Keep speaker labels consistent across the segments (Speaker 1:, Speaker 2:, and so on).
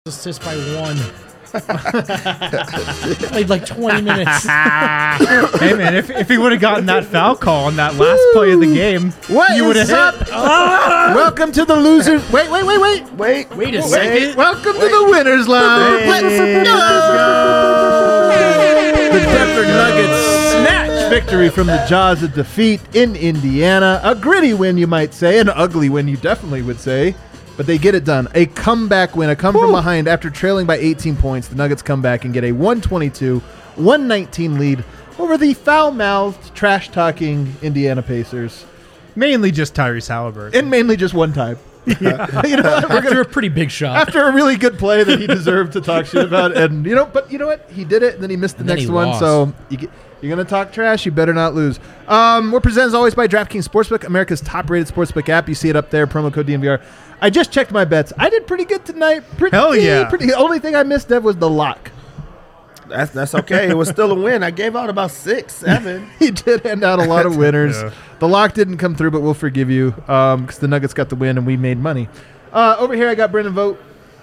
Speaker 1: Assist by 1. Played like 20 minutes.
Speaker 2: Hey man, if he would have gotten that foul call on that last play of the game, you would have hit.
Speaker 3: Welcome to the losers. Wait
Speaker 1: a second.
Speaker 3: Welcome to the winners lounge. The Denver Nuggets snatch victory from the jaws of defeat in Indiana. A gritty win, you might say. An ugly win, you definitely would say. But they get it done. A comeback win, a come from behind after trailing by 18 points. The Nuggets come back and get a 122-119 lead over the foul-mouthed, trash-talking Indiana Pacers.
Speaker 2: Mainly just Tyrese Halliburton.
Speaker 3: And mainly just one time.
Speaker 2: Yeah.
Speaker 1: After a pretty big shot.
Speaker 3: After a really good play that he deserved to talk shit about. And but you know what? He did it, and then he missed the next one.
Speaker 1: Lost.
Speaker 3: So you're going to talk trash, you better not lose. We're presented as always by DraftKings Sportsbook, America's top-rated sportsbook app. You see it up there, promo code DNVR. I just checked my bets. I did pretty good tonight.
Speaker 2: Hell yeah.
Speaker 3: The only thing I missed, Dev, was the lock.
Speaker 4: That's okay. It was still a win. I gave out about 6, 7.
Speaker 3: He did hand out a lot of winners.
Speaker 2: Yeah.
Speaker 3: The lock didn't come through, but we'll forgive you because the Nuggets got the win and we made money. Over here, I got Brendan Vogt.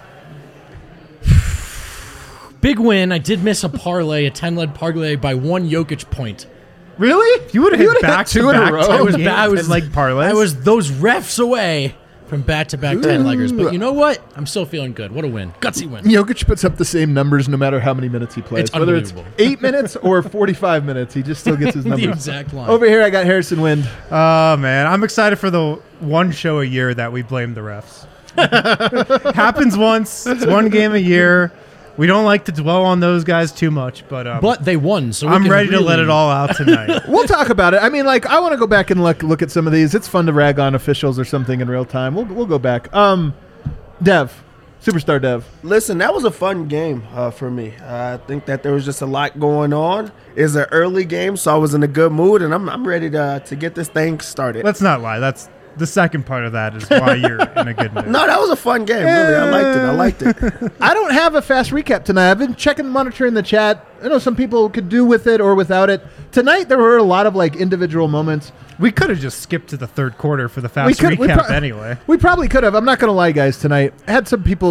Speaker 1: Big win. I did miss a parlay, a 10-lead parlay by 1 Jokic point.
Speaker 3: Really?
Speaker 2: You would have hit back
Speaker 3: two in a row.
Speaker 1: I was
Speaker 2: like parlays.
Speaker 1: I was those refs away from back-to-back 10-leggers. But you know what? I'm still feeling good. What a win. Gutsy win.
Speaker 3: Jokic puts up the same numbers no matter how many minutes he plays.
Speaker 1: It's
Speaker 3: Whether it's
Speaker 1: unbelievable.
Speaker 3: 8 minutes or 45 minutes, he just still gets his numbers.
Speaker 1: The exact line.
Speaker 3: Over here, I got Harrison Wind.
Speaker 2: Oh, man. I'm excited for the one show a year that we blame the refs. Happens once. It's one game a year. We don't like to dwell on those guys too much,
Speaker 1: but they won, so
Speaker 2: I'm ready to let it all out tonight.
Speaker 3: We'll talk about it. I mean, I want to go back and look at some of these. It's fun to rag on officials or something in real time. We'll go back. Dev, Superstar Dev.
Speaker 4: Listen, that was a fun game for me. I think that there was just a lot going on. It's an early game, so I was in a good mood, and I'm ready to get this thing started.
Speaker 2: Let's not lie. That's the second part of that is why you're in a good mood.
Speaker 4: No, that was a fun game. Really, I liked it.
Speaker 3: I don't have a fast recap tonight. I've been monitoring the chat. I know some people could do with it or without it. Tonight, there were a lot of individual moments.
Speaker 2: We could have just skipped to the third quarter for the fast recap anyway.
Speaker 3: We probably could have. I'm not going to lie, guys. Tonight, I had some people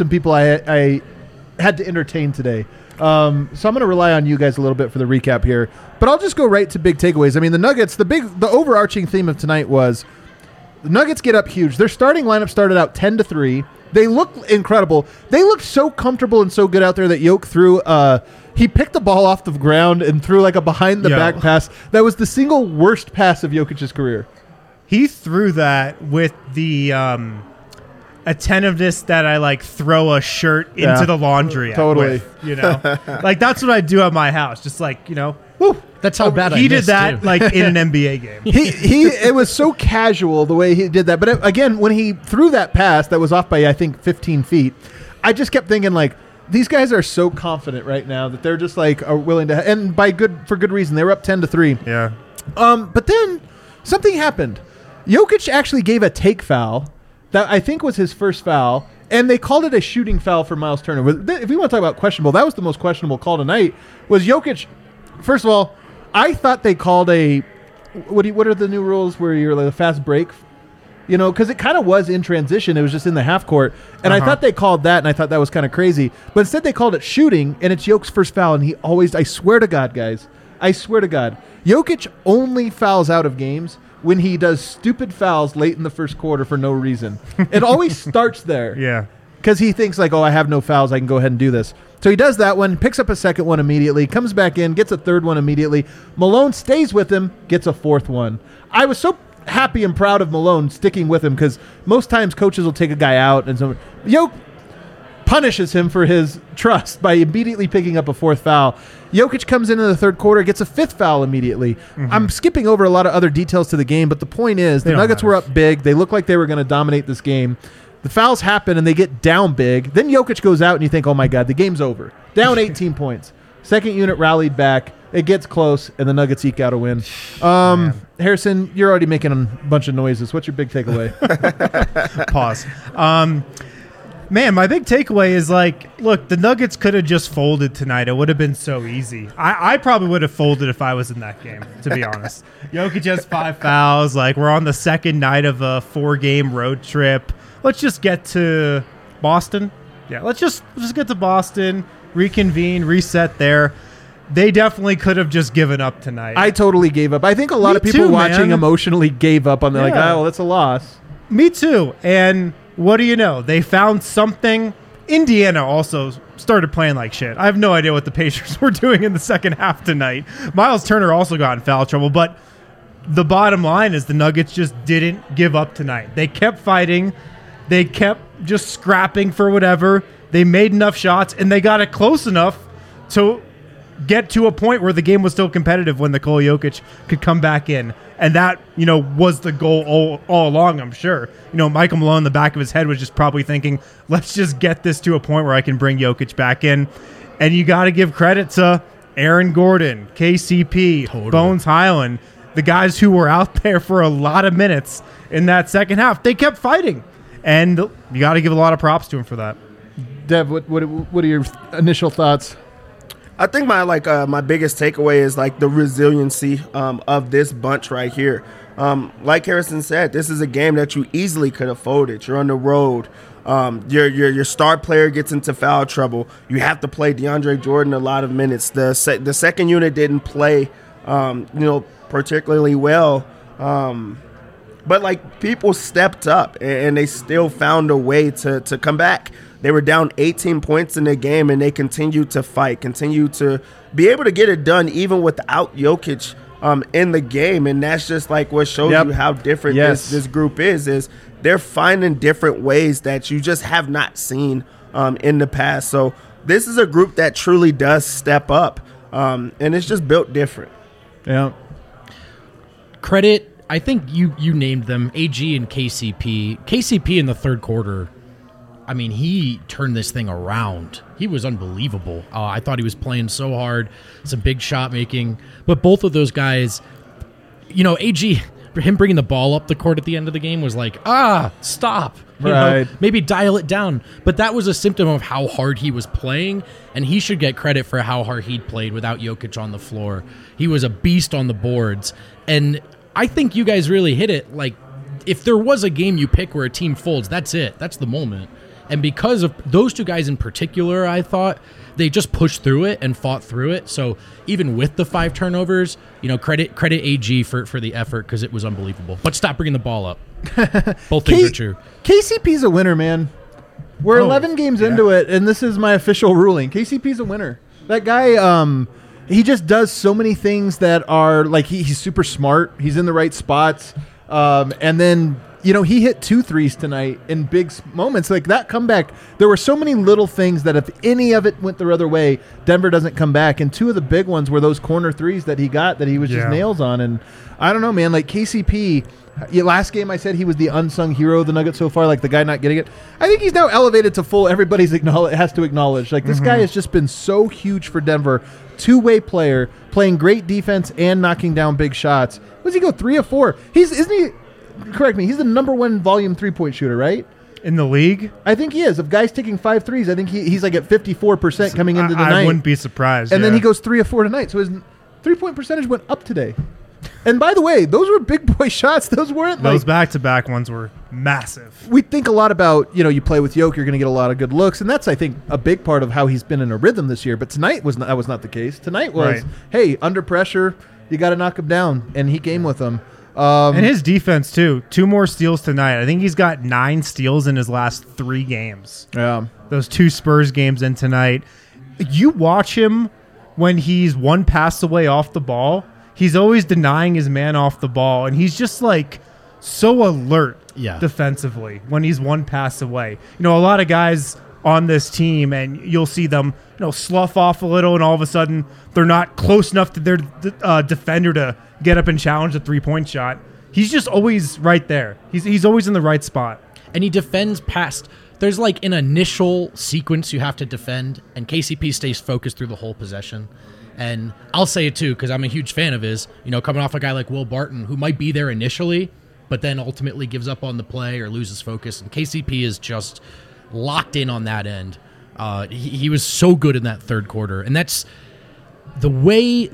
Speaker 3: I had to entertain today. So I'm going to rely on you guys a little bit for the recap here. But I'll just go right to big takeaways. I mean, the Nuggets. The overarching theme of tonight was the Nuggets get up huge. Their starting lineup started out 10-3. They looked incredible. They looked so comfortable and so good out there that Jokic threw. He picked the ball off the ground and threw a behind-the-back pass. That was the single worst pass of Jokic's career.
Speaker 2: He threw that with the attentiveness that I throw a shirt into the laundry.
Speaker 3: Totally.
Speaker 2: That's what I do at my house. Just woo.
Speaker 1: That's how bad
Speaker 2: he did that in an NBA game.
Speaker 3: It was so casual the way he did that. But again, when he threw that pass that was off by I think 15 feet, I just kept thinking these guys are so confident right now that they're just are willing to, and for good reason. They were up 10-3.
Speaker 2: Yeah.
Speaker 3: But then something happened. Jokic actually gave a take foul that I think was his first foul, and they called it a shooting foul for Miles Turner. If we want to talk about questionable, that was the most questionable call tonight. Was Jokic? First of all, I thought they called what are the new rules where you're a fast break? Because it kind of was in transition. It was just in the half court. And I thought they called that, and I thought that was kind of crazy. But instead they called it shooting, and it's Jokic's first foul. And I swear to God, guys, Jokic only fouls out of games when he does stupid fouls late in the first quarter for no reason. It always starts there.
Speaker 2: Yeah.
Speaker 3: Because he thinks I have no fouls, I can go ahead and do this. So he does that one, picks up a second one immediately, comes back in, gets a third one immediately. Malone stays with him, gets a fourth one. I was so happy and proud of Malone sticking with him because most times coaches will take a guy out and so Jokic punishes him for his trust by immediately picking up a fourth foul. Jokic comes into the third quarter, gets a fifth foul immediately. Mm-hmm. I'm skipping over a lot of other details to the game, but the point is the Nuggets were up big. They looked like they were going to dominate this game. The fouls happen, and they get down big. Then Jokic goes out, and you think, oh, my God, the game's over. Down 18 points. Second unit rallied back. It gets close, and the Nuggets eke out a win. Harrison, you're already making a bunch of noises. What's your big takeaway?
Speaker 2: Pause. Man, my big takeaway is look, the Nuggets could have just folded tonight. It would have been so easy. I probably would have folded if I was in that game, to be honest. Jokic has 5 fouls. We're on the second night of a 4-game road trip. Let's just get to Boston. Yeah, let's just get to Boston, reconvene, reset there. They definitely could have just given up tonight.
Speaker 3: I totally gave up. I think a lot
Speaker 2: Me
Speaker 3: of people
Speaker 2: too,
Speaker 3: watching
Speaker 2: man.
Speaker 3: emotionally gave up on. They're like,
Speaker 2: Yeah.
Speaker 3: oh, well, that's a loss.
Speaker 2: Me too. And what do you know? They found something. Indiana also started playing like shit. I have no idea what the Pacers were doing in the second half tonight. Miles Turner also got in foul trouble, but the bottom line is the Nuggets just didn't give up tonight. They kept fighting. They kept just scrapping for whatever. They made enough shots, and they got it close enough to get to a point where the game was still competitive when Nikola Jokic could come back in. And that, was the goal all along, I'm sure. Michael Malone in the back of his head was just probably thinking, let's just get this to a point where I can bring Jokic back in. And you got to give credit to Aaron Gordon, KCP,
Speaker 1: Totally.
Speaker 2: Bones Highland, the guys who were out there for a lot of minutes in that second half. They kept fighting. And you got to give a lot of props to him for that.
Speaker 3: Dev, what are your initial thoughts?
Speaker 4: I think my biggest takeaway is the resiliency of this bunch right here. Like Harrison said, this is a game that you easily could have folded. You're on the road. Your star player gets into foul trouble. You have to play DeAndre Jordan a lot of minutes. The second unit didn't play, particularly well. But people stepped up and they still found a way to come back. They were down 18 points in the game, and they continued to fight, continued to be able to get it done even without Jokic in the game. And that's just what shows you how different this group is they're finding different ways that you just have not seen in the past. So this is a group that truly does step up, and it's just built different.
Speaker 3: Yeah.
Speaker 1: Credit, I think you named them, AG and KCP. KCP in the third quarter, I mean, he turned this thing around. He was unbelievable. I thought he was playing so hard, some big shot making. But both of those guys, AG, him bringing the ball up the court at the end of the game was stop.
Speaker 3: Right.
Speaker 1: Maybe dial it down. But that was a symptom of how hard he was playing, and he should get credit for how hard he'd played without Jokic on the floor. He was a beast on the boards. And I think you guys really hit it. If there was a game you pick where a team folds, that's it. That's the moment. And because of those two guys in particular, I thought they just pushed through it and fought through it. So even with the 5 turnovers, credit AG for the effort because it was unbelievable. But stop bringing the ball up. Both things are true.
Speaker 3: KCP's a winner, man. We're 11 games into it, and this is my official ruling. KCP's a winner. That guy, he just does so many things that are he's super smart. He's in the right spots. And then, he hit 2 threes tonight in big moments. That comeback, there were so many little things that if any of it went the other way, Denver doesn't come back. And 2 of the big ones were those corner threes that he got that he was just nails on. And I don't know, man, KCP, last game I said he was the unsung hero of the Nuggets so far, the guy not getting it. I think he's now elevated to full everybody's has to acknowledge. This guy has just been so huge for Denver. 2-way player, playing great defense and knocking down big shots. What does he go, 3 of 4? Isn't he? Correct me. He's the number 1 volume 3-point shooter, right?
Speaker 2: In the league?
Speaker 3: I think he is. Of guys taking 5 threes, I think he's at 54% coming into the night.
Speaker 2: I wouldn't be surprised.
Speaker 3: And then he goes 3 of 4 tonight. So his 3-point percentage went up today. And by the way, those were big boy shots. Those weren't
Speaker 2: those back-to-back ones were massive.
Speaker 3: We think a lot about, you play with Jokic, you're going to get a lot of good looks. And that's, I think, a big part of how he's been in a rhythm this year. But tonight that was not the case. Tonight was, hey, under pressure, you got to knock him down. And he came with them.
Speaker 2: And his defense, too. 2 more steals tonight. I think he's got 9 steals in his last 3 games.
Speaker 3: Yeah.
Speaker 2: Those 2 Spurs games in tonight. You watch him when he's 1 pass away off the ball. He's always denying his man off the ball. And he's just so alert defensively when he's 1 pass away. A lot of guys on this team, and you'll see them slough off a little, and all of a sudden they're not close enough to their defender to get up and challenge a 3-point shot. He's just always right there. He's always in the right spot.
Speaker 1: And he defends past. There's an initial sequence you have to defend, and KCP stays focused through the whole possession. And I'll say it too, because I'm a huge fan of his, coming off a guy like Will Barton, who might be there initially, but then ultimately gives up on the play or loses focus. And KCP is just locked in on that end. He was so good in that third quarter. And that's the way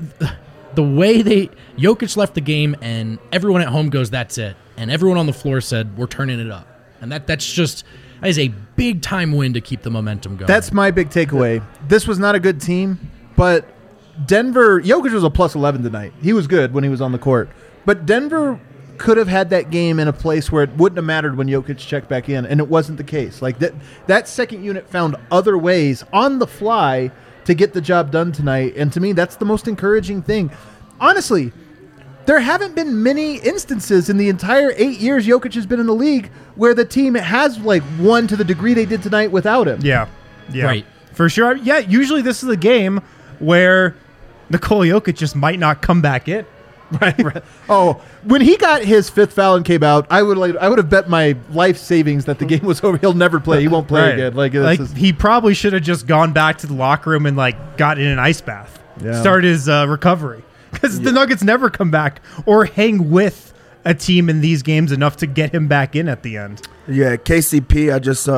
Speaker 1: Jokic left the game, and everyone at home goes, that's it. And everyone on the floor said, we're turning it up. And that's That is a big time win to keep the momentum going.
Speaker 3: That's my big takeaway. This was not a good team, but Denver, Jokic was a plus 11 tonight. He was good when he was on the court. But Denver could have had that game in a place where it wouldn't have mattered when Jokic checked back in, and it wasn't the case. Like that second unit found other ways on the fly to get the job done tonight, and to me, that's the most encouraging thing. Honestly, there haven't been many instances in the entire 8 years Jokic has been in the league where the team has like won to the degree they did tonight without him.
Speaker 2: Yeah.
Speaker 1: Right.
Speaker 2: For sure. Yeah, usually this is a game where Nikola Jokic just might not come back in.
Speaker 3: Right. Oh, when he got his fifth foul and came out, I would have bet my life savings that the game was over. He'll never play. He won't play again.
Speaker 2: He probably should have just gone back to the locker room and got in an ice bath.
Speaker 3: Yeah.
Speaker 2: Start his recovery, because the Nuggets never come back or hang with a team in these games enough to get him back in at the end.
Speaker 4: Yeah, KCP,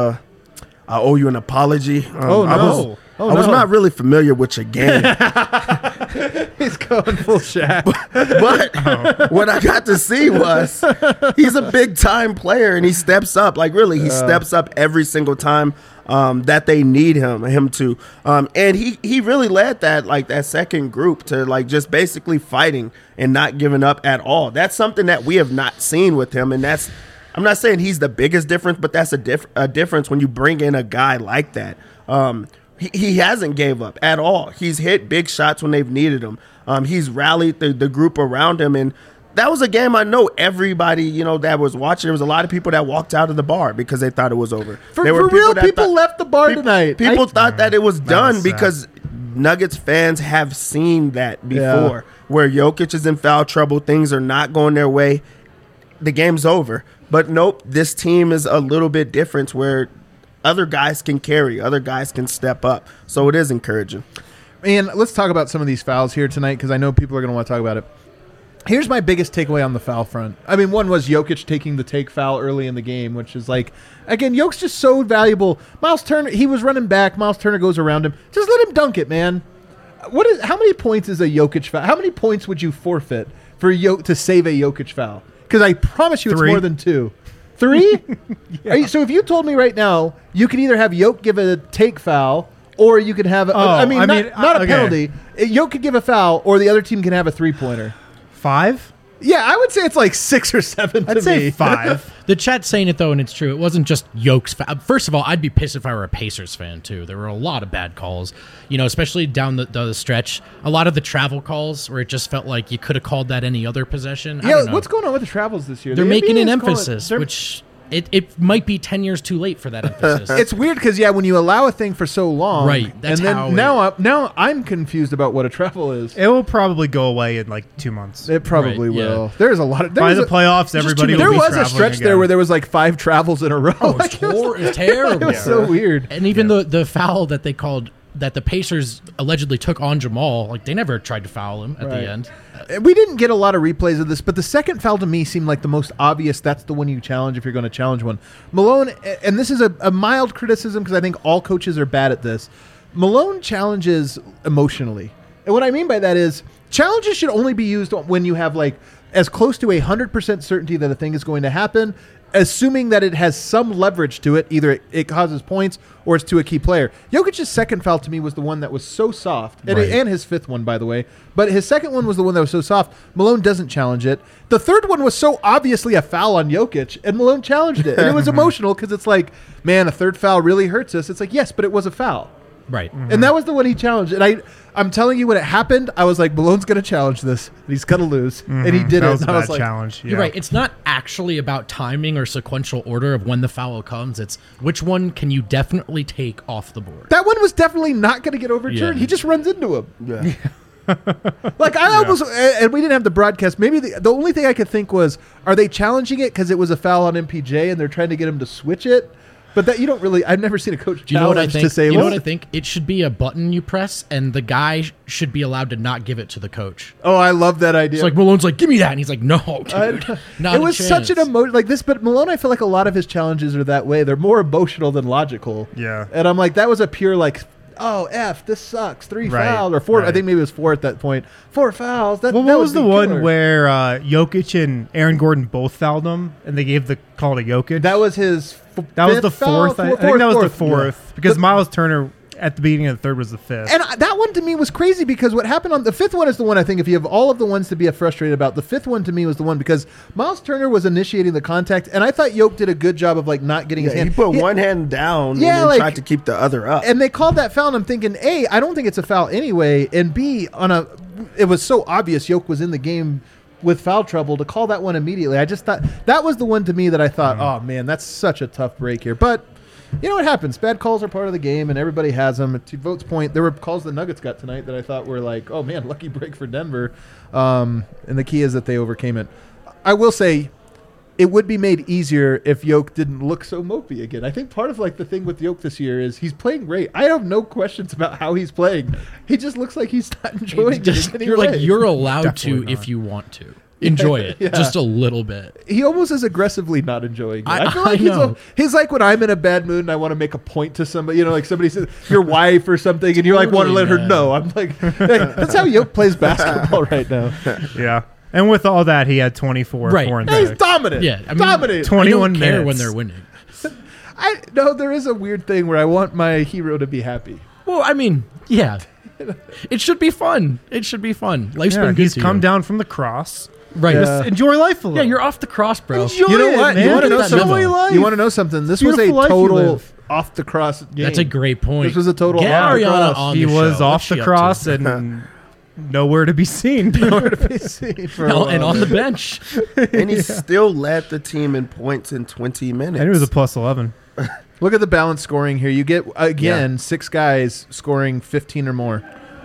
Speaker 4: I owe you an apology.
Speaker 3: I
Speaker 4: was not really familiar with your game.
Speaker 3: He's going full Shaq.
Speaker 4: But what I got to see was he's a big time player, and he steps up. Like, really, he steps up every single time that they need him to. And he really led that second group to just basically fighting and not giving up at all. That's something that we have not seen with him, and I'm not saying he's the biggest difference, but that's a difference when you bring in a guy like that. He hasn't gave up at all. He's hit big shots when they've needed him. He's rallied the group around him, and that was a game I know everybody that was watching. There was a lot of people that walked out of the bar because they thought it was over.
Speaker 3: People left the bar tonight.
Speaker 4: People thought that it was done because Nuggets fans have seen that before, where Jokic is in foul trouble, things are not going their way, the game's over. But nope, this team is a little bit different where other guys can carry, other guys can step up. So it is encouraging.
Speaker 3: And let's talk about some of these fouls here tonight, because I know people are going to want to talk about it. Here's my biggest takeaway on the foul front. I mean, one was Jokic taking the take foul early in the game, which is again, Jokic's just so valuable. Miles Turner, he was running back. Miles Turner goes around him. Just let him dunk it, man. How many points is a Jokic foul? How many points would you forfeit for to save a Jokic foul? Because I promise you
Speaker 2: 3.
Speaker 3: It's more than 2. 3? Yeah. So if you told me right now, you could either have Jokic give a take foul, or you could have not a penalty. Jokic could give a foul, or the other team can have a 3-pointer.
Speaker 2: 5?
Speaker 3: Yeah, I would say it's 6 or 7 to
Speaker 2: I'd say
Speaker 3: me.
Speaker 2: 5.
Speaker 1: The chat's saying it, though, and it's true. It wasn't just Jokic. First of all, I'd be pissed if I were a Pacers fan, too. There were a lot of bad calls, especially down the stretch. A lot of the travel calls where it just felt like you could have called that any other possession.
Speaker 3: Yeah, what's going on with the travels this year?
Speaker 1: They're making
Speaker 3: NBA
Speaker 1: an
Speaker 3: is
Speaker 1: emphasis, which... It might be 10 years too late for that emphasis.
Speaker 3: It's weird because, when you allow a thing for so long.
Speaker 1: Right. That's
Speaker 3: and then
Speaker 1: how
Speaker 3: now I'm confused about what a travel is.
Speaker 2: It will probably go away in 2 months.
Speaker 3: It probably
Speaker 1: Right,
Speaker 3: will.
Speaker 1: yeah.
Speaker 3: There's a lot of...
Speaker 2: By the playoffs, everybody will
Speaker 3: There
Speaker 2: be
Speaker 3: was a
Speaker 2: traveling
Speaker 3: stretch
Speaker 2: again.
Speaker 3: there where there was 5 travels in a row.
Speaker 1: Oh, it's terrible.
Speaker 3: It was so weird.
Speaker 1: And even the foul that they called, that the Pacers allegedly took on Jamal, they never tried to foul him at the end.
Speaker 3: We didn't get a lot of replays of this, but the second foul to me seemed like the most obvious. That's the one you challenge if you're going to challenge one. Malone, and this is a mild criticism because I think all coaches are bad at this. Malone challenges emotionally. And what I mean by that is challenges should only be used when you have as close to 100% certainty that a thing is going to happen, assuming that it has some leverage to it. Either it causes points or it's to a key player. Jokic's second foul to me was the one that was so soft, and his fifth one, by the way. But his second one was the one that was so soft. Malone doesn't challenge it. The third one was so obviously a foul on Jokic, and Malone challenged it. And it was emotional because it's man, a third foul really hurts us. It's yes, but it was a foul.
Speaker 1: Right.
Speaker 3: And that was the one he challenged. And I'm telling you, when it happened, I was Malone's going to challenge this, and he's going to lose. And he did
Speaker 2: that
Speaker 3: it.
Speaker 2: was
Speaker 3: And
Speaker 2: a
Speaker 3: I was
Speaker 2: bad challenge. Yeah.
Speaker 1: You're right. It's not actually about timing or sequential order of when the foul comes. It's which one can you definitely take off the board.
Speaker 3: That one was definitely not going to get overturned.
Speaker 1: Yeah.
Speaker 3: He just runs into him.
Speaker 4: Yeah.
Speaker 3: I almost, and we didn't have the broadcast. Maybe the only thing I could think was, are they challenging it because it was a foul on MPJ and they're trying to get him to switch it? But that you don't really. I've never seen a coach
Speaker 1: Do you know what I
Speaker 3: challenge
Speaker 1: think?
Speaker 3: to say.
Speaker 1: You know
Speaker 3: well,
Speaker 1: what I think? It should be a button you press, and the guy should be allowed to not give it to the coach.
Speaker 3: Oh, I love that idea.
Speaker 1: It's Malone's give me that, and he's no, dude, not
Speaker 3: it
Speaker 1: a
Speaker 3: was
Speaker 1: chance.
Speaker 3: such an emotion this, but Malone, I feel like a lot of his challenges are that way. They're more emotional than logical.
Speaker 2: Yeah.
Speaker 3: And I'm that was a pure oh, this sucks. 3
Speaker 2: Right,
Speaker 3: fouls or 4. I
Speaker 2: right.
Speaker 3: think maybe it was 4 at that point. 4 fouls. That,
Speaker 2: Well,
Speaker 3: that
Speaker 2: what
Speaker 3: would
Speaker 2: was the
Speaker 3: be
Speaker 2: one
Speaker 3: killer.
Speaker 2: where Jokic and Aaron Gordon both fouled him, and they gave the call to Jokic?
Speaker 3: That was his
Speaker 2: That was
Speaker 3: fifth
Speaker 2: the
Speaker 3: foul?
Speaker 2: fourth. I think that was the fourth
Speaker 3: Yeah.
Speaker 2: because Miles Turner at the beginning of the third was the fifth.
Speaker 3: And that one to me was crazy because what happened on the fifth one is the one I think if you have all of the ones to be frustrated about, the fifth one to me was the one because Miles Turner was initiating the contact, and I thought Yoke did a good job of like not getting his
Speaker 4: He
Speaker 3: hand.
Speaker 4: put one hand down
Speaker 3: Yeah,
Speaker 4: and then
Speaker 3: like-
Speaker 4: tried to keep the other up.
Speaker 3: And they called that foul, and I'm thinking, A, I don't think it's a foul anyway, and B, it was so obvious Yoke was in the game with foul trouble to call that one immediately. I just thought that was the one to me that I thought, oh man, that's such a tough break here. But you know what happens? Bad calls are part of the game, and everybody has them. To Vote's point, there were calls the Nuggets got tonight that I thought were like, oh man, lucky break for Denver. And the key is that they overcame it. I will say, it would be made easier if Yoke didn't look so mopey again. I think part of like the thing with Yoke this year is he's playing great. I have no questions about how he's playing. He just looks like he's not enjoying
Speaker 1: Just,
Speaker 3: it. in any
Speaker 1: you're like
Speaker 3: way.
Speaker 1: you're allowed
Speaker 2: Definitely
Speaker 1: to
Speaker 2: not.
Speaker 1: if you want to enjoy it
Speaker 3: Yeah.
Speaker 1: just a little bit.
Speaker 3: He almost is aggressively not enjoying it. I feel
Speaker 1: I
Speaker 3: like
Speaker 1: know.
Speaker 3: he's like when I'm in a bad mood and I want to make a point to somebody, you know, like somebody says your wife or something, and you're like want to let her
Speaker 1: Totally,
Speaker 3: know. I'm like, hey, that's how Yoke plays basketball right now.
Speaker 2: yeah. And with all that, he had 24,
Speaker 1: Right.
Speaker 2: 4 and
Speaker 3: He's
Speaker 2: 6.
Speaker 3: dominant.
Speaker 1: Yeah, I mean,
Speaker 3: dominant.
Speaker 2: 21
Speaker 1: I don't care
Speaker 2: minutes.
Speaker 1: when they're winning.
Speaker 3: I no, there is a weird thing where I want my hero to be happy.
Speaker 1: Well, I mean, yeah, it should be fun. It should be fun. Life's
Speaker 2: Yeah,
Speaker 1: been good
Speaker 2: he's
Speaker 1: to
Speaker 2: come
Speaker 1: you.
Speaker 2: down from the cross.
Speaker 1: Right.
Speaker 3: Yeah.
Speaker 2: Just enjoy life a little.
Speaker 1: Yeah, you're off the cross, bro.
Speaker 2: Enjoy
Speaker 3: You know
Speaker 2: it,
Speaker 3: what?
Speaker 2: man.
Speaker 3: You want to know
Speaker 1: Get that
Speaker 3: something?
Speaker 1: memo.
Speaker 2: life.
Speaker 3: You want to know something? This was a
Speaker 2: Beautiful life you
Speaker 3: total
Speaker 2: live.
Speaker 3: off the cross game.
Speaker 1: That's a great point.
Speaker 3: This was a total
Speaker 1: Get
Speaker 3: off the
Speaker 1: Ariana
Speaker 3: cross.
Speaker 1: on
Speaker 2: He
Speaker 1: the
Speaker 2: was
Speaker 1: show.
Speaker 2: off
Speaker 1: What's she
Speaker 2: the
Speaker 1: up
Speaker 2: cross
Speaker 1: to?
Speaker 2: and nowhere to be seen.
Speaker 3: Nowhere to be seen for a
Speaker 1: and
Speaker 3: while,
Speaker 1: on the
Speaker 3: man.
Speaker 1: bench.
Speaker 4: And he still led the team in points in 20 minutes.
Speaker 2: And it was a plus 11.
Speaker 3: Look at the balanced scoring here. You get, again, 6 guys scoring 15 or more.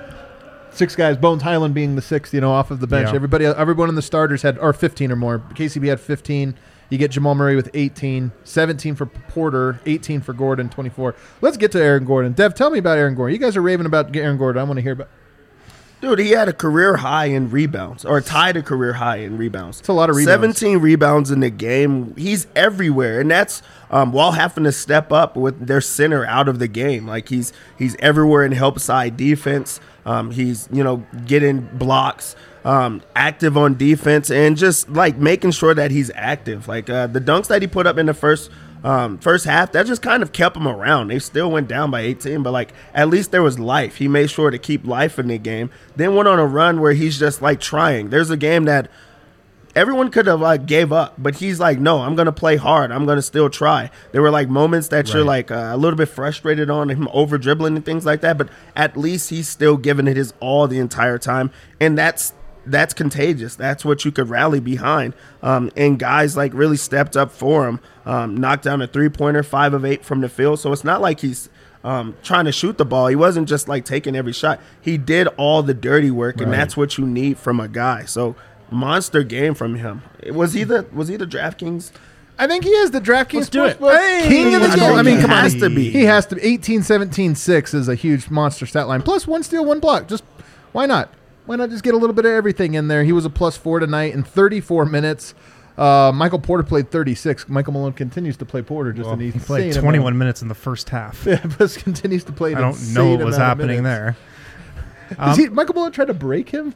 Speaker 3: 6 guys, Bones Highland being the 6th, off of the bench.
Speaker 2: Yeah.
Speaker 3: Everyone in the starters had 15 or more. KCP had 15. You get Jamal Murray with 18, 17 for Porter, 18 for Gordon, 24. Let's get to Aaron Gordon. Dev, tell me about Aaron Gordon. You guys are raving about Aaron Gordon. I want to hear about.
Speaker 4: Dude, he had a career high in rebounds, or tied a career high in rebounds.
Speaker 3: It's a lot of rebounds.
Speaker 4: 17 rebounds in the game. He's everywhere, and that's while having to step up with their center out of the game. Like he's everywhere in help side defense. He's getting blocks, active on defense, and just like making sure that he's active. Like the dunks that he put up in the first half, that just kind of kept him around. They still went down by 18, but like at least there was life. He made sure to keep life in the game. Then went on a run where he's just like trying. There's a game that everyone could have like gave up, but he's like, no, I'm gonna play hard. I'm gonna still try. There were like moments that you're like a little bit frustrated on him over dribbling and things like that, but at least he's still giving it his all the entire time, and that's contagious. That's what you could rally behind. And guys like really stepped up for him. Knocked down a 3-pointer, 5 of 8 from the field. So it's not like he's trying to shoot the ball. He wasn't just like taking every shot. He did all the dirty work, and that's what you need from a guy. So monster game from him. Was he the DraftKings?
Speaker 3: I think he is the DraftKings
Speaker 1: Let's do it.
Speaker 3: Sportsbook king of the
Speaker 4: I
Speaker 3: game.
Speaker 4: think
Speaker 3: I mean,
Speaker 4: he
Speaker 3: come on.
Speaker 4: has to be.
Speaker 3: He has to. 18, 17, 6 is a huge monster stat line. Plus 1 steal, 1 block. Just why not? Why not just get a little bit of everything in there? He was a +4 tonight in 34 minutes. Michael Porter played 36. Michael Malone continues to play Porter just an
Speaker 2: He
Speaker 3: insane
Speaker 2: played
Speaker 3: amount.
Speaker 2: 21 minutes in the first half.
Speaker 3: Yeah, but continues to play. An
Speaker 2: I don't
Speaker 3: insane
Speaker 2: know what was
Speaker 3: amount of
Speaker 2: happening
Speaker 3: minutes.
Speaker 2: there.
Speaker 3: Is Michael Malone tried to break him?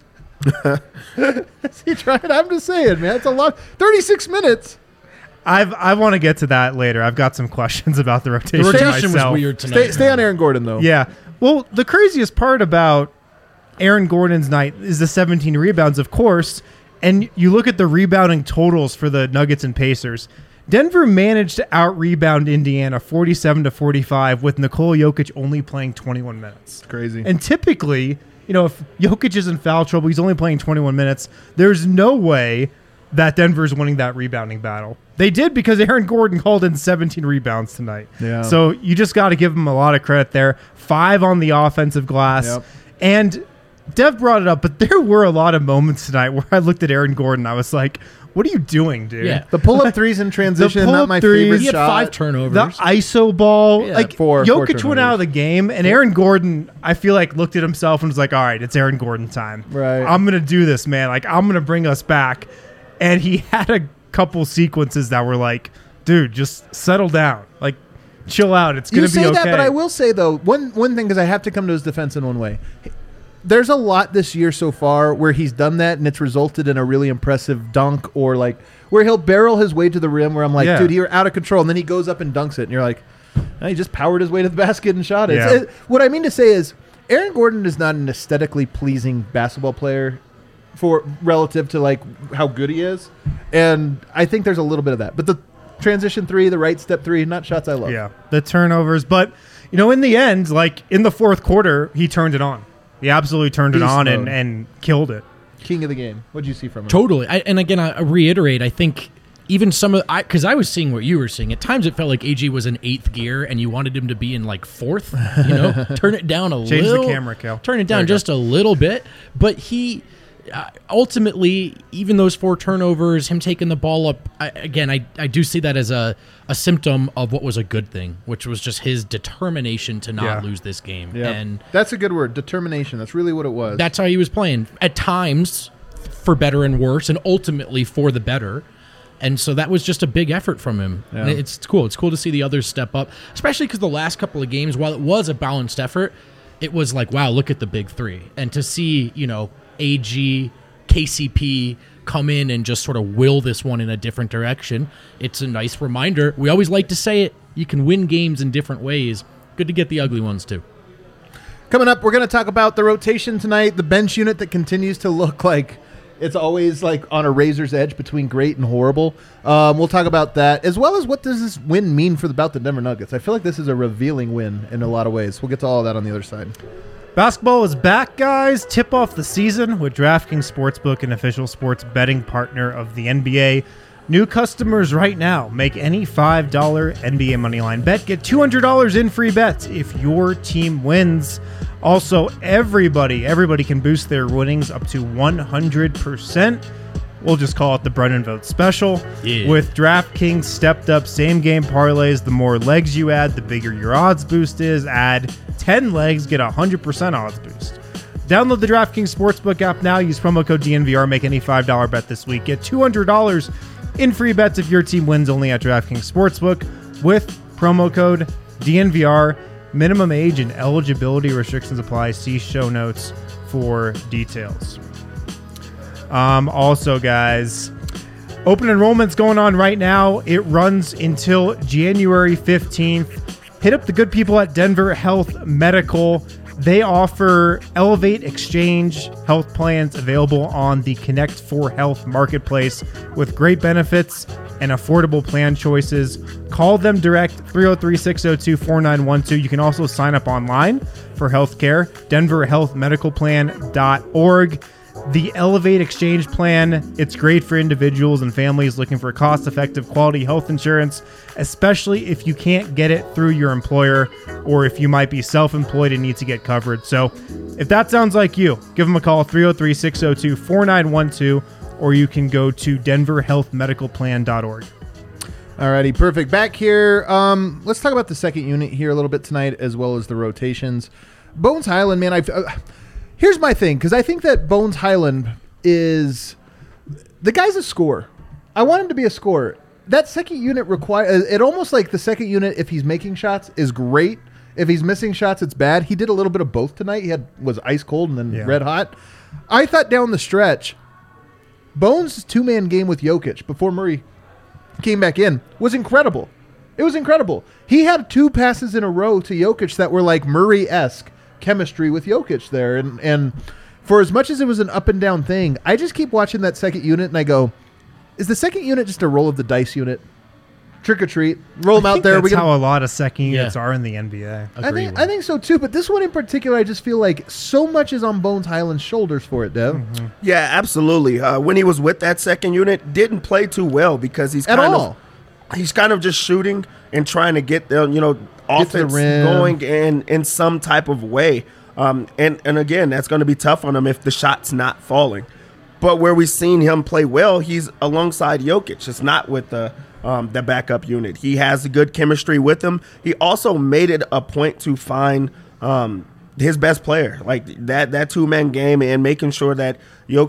Speaker 3: Is he tried? I'm just saying, man. It's a lot. 36 minutes.
Speaker 2: I want to get to that later. I've got some questions about the
Speaker 1: The
Speaker 2: rotation,
Speaker 1: rotation was
Speaker 2: myself.
Speaker 1: weird tonight.
Speaker 3: Stay on Aaron Gordon though.
Speaker 2: Yeah. Well, the craziest part about Aaron Gordon's night is the 17 rebounds, of course. And you look at the rebounding totals for the Nuggets and Pacers. Denver managed to out-rebound Indiana 47-45 with Nikola Jokic only playing 21 minutes.
Speaker 3: Crazy.
Speaker 2: And typically, if Jokic is in foul trouble, he's only playing 21 minutes. There's no way that Denver's winning that rebounding battle. They did because Aaron Gordon called in 17 rebounds tonight.
Speaker 3: Yeah.
Speaker 2: So you just got to give him a lot of credit there. 5 on the offensive glass.
Speaker 3: Yep.
Speaker 2: And Dev brought it up, but there were a lot of moments tonight where I looked at Aaron Gordon. I was like, what are you doing, dude?
Speaker 1: Yeah.
Speaker 3: The pull-up threes in transition,
Speaker 2: pull-up
Speaker 3: not my
Speaker 2: threes.
Speaker 3: favorite
Speaker 1: He had
Speaker 3: shot.
Speaker 1: 5 turnovers.
Speaker 2: The ISO ball.
Speaker 1: Yeah,
Speaker 2: like,
Speaker 3: four
Speaker 2: Jokic
Speaker 3: turnovers.
Speaker 2: went out of the game, and Aaron Gordon, I feel like, looked at himself and was like, all right, it's Aaron Gordon time.
Speaker 3: Right.
Speaker 2: I'm going to do this, man. Like, I'm going to bring us back. And he had a couple sequences that were like, dude, just settle down. Like, chill out. It's going
Speaker 3: You
Speaker 2: to be
Speaker 3: say
Speaker 2: okay.
Speaker 3: that, but I will say though one thing, because I have to come to his defense in one way. There's a lot this year so far where he's done that and it's resulted in a really impressive dunk, or like where he'll barrel his way to the rim where I'm like, dude, you're out of control, and then he goes up and dunks it, and you're like, oh, he just powered his way to the basket and shot it.
Speaker 2: Yeah.
Speaker 3: What I mean to say is, Aaron Gordon is not an aesthetically pleasing basketball player for relative to like how good he is, and I think there's a little bit of that. But the transition three, the right step three, not shots I love.
Speaker 2: Yeah, the turnovers. But, in the end, like in the fourth quarter, he turned it on. He absolutely turned it on and killed it.
Speaker 3: King of the game. What did you see from him?
Speaker 1: Totally. And again, I reiterate, I think even some of because I was seeing what you were seeing. At times, it felt like AG was in 8th gear, and you wanted him to be in like 4th. Turn it down a
Speaker 2: Change
Speaker 1: little.
Speaker 2: the camera, Kel.
Speaker 1: Turn it down just a little bit. But he ultimately, even those 4 turnovers, him taking the ball up. I do see that as a symptom of what was a good thing, which was just his determination to not lose this game.
Speaker 3: Yeah.
Speaker 1: And
Speaker 3: that's a good word, determination. That's really what it was.
Speaker 1: that's how he was playing. At times, for better and worse, and ultimately for the better. And so that was just a big effort from him.
Speaker 3: Yeah.
Speaker 1: And it's cool. It's cool to see the others step up, especially because the last couple of games, while it was a balanced effort, it was like, wow, look at the big 3. And to see, AG, KCP come in and just sort of will this one in a different direction, it's a nice reminder. We always like to say it. You can win games in different ways. Good to get the ugly ones, too.
Speaker 3: Coming up, we're going to talk about the rotation tonight, the bench unit that continues to look like it's always like on a razor's edge between great and horrible. We'll talk about that, as well as what does this win mean for the Denver Nuggets. I feel like this is a revealing win in a lot of ways. We'll get to all of that on the other side.
Speaker 2: Basketball is back, guys. Tip off the season with DraftKings Sportsbook, an official sports betting partner of the NBA. New customers right now make any $5 NBA moneyline bet. Get $200 in free bets if your team wins. Also, everybody can boost their winnings up to 100%. We'll just call it the Brennan Vote Special.
Speaker 1: Yeah.
Speaker 2: With DraftKings stepped up same-game parlays, the more legs you add, the bigger your odds boost is. Add 10 legs, get a 100% odds boost. Download the DraftKings Sportsbook app now. Use promo code DNVR. Make any $5 bet this week. Get $200 in free bets if your team wins, only at DraftKings Sportsbook with promo code DNVR. Minimum age and eligibility restrictions apply. See show notes for details. Also, guys, open enrollment's going on right now. It runs until January 15th. Hit up the good people at Denver Health Medical. They offer Elevate Exchange health plans available on the Connect 4 Health marketplace with great benefits and affordable plan choices. Call them direct, 303-602-4912. You can also sign up online for healthcare, denverhealthmedicalplan.org. The Elevate Exchange plan, it's great for individuals and families looking for cost-effective quality health insurance, especially if you can't get it through your employer or if you might be self-employed and need to get covered. So if that sounds like you, give them a call, 303-602-4912, or you can go to denverhealthmedicalplan.org.
Speaker 3: Alrighty, perfect. Back here, let's talk about the second unit here a little bit tonight, as well as the rotations. Bones Highland, man, here's my thing, because I think that Bones Highland is the guy's a scorer. I want him to be a scorer. That second unit it almost like the second unit, if he's making shots, is great. If he's missing shots, it's bad. He did a little bit of both tonight. He was ice cold and then red hot. I thought down the stretch, Bones' 2-man game with Jokic before Murray came back in was incredible. It was incredible. He had 2 passes in a row to Jokic that were like Murray-esque chemistry with Jokic there. And for as much as it was an up and down thing, I just keep watching that second unit and I go, is the second unit just a roll of the dice unit? Trick or treat, roll them out there.
Speaker 2: That's how a lot of second units are in the NBA.
Speaker 3: I think so too, but this one in particular, I just feel like so much is on Bones Highland's shoulders for it, Dev.
Speaker 4: Mm-hmm. Yeah, absolutely. When he was with that second unit, didn't play too well because he's kind of just shooting and trying to get the offense going in some type of way. And again, that's going to be tough on him if the shot's not falling. But where we've seen him play well, he's alongside Jokic. It's not with the backup unit. He has a good chemistry with him. He also made it a point to find his best player, like that 2-man game, and making sure that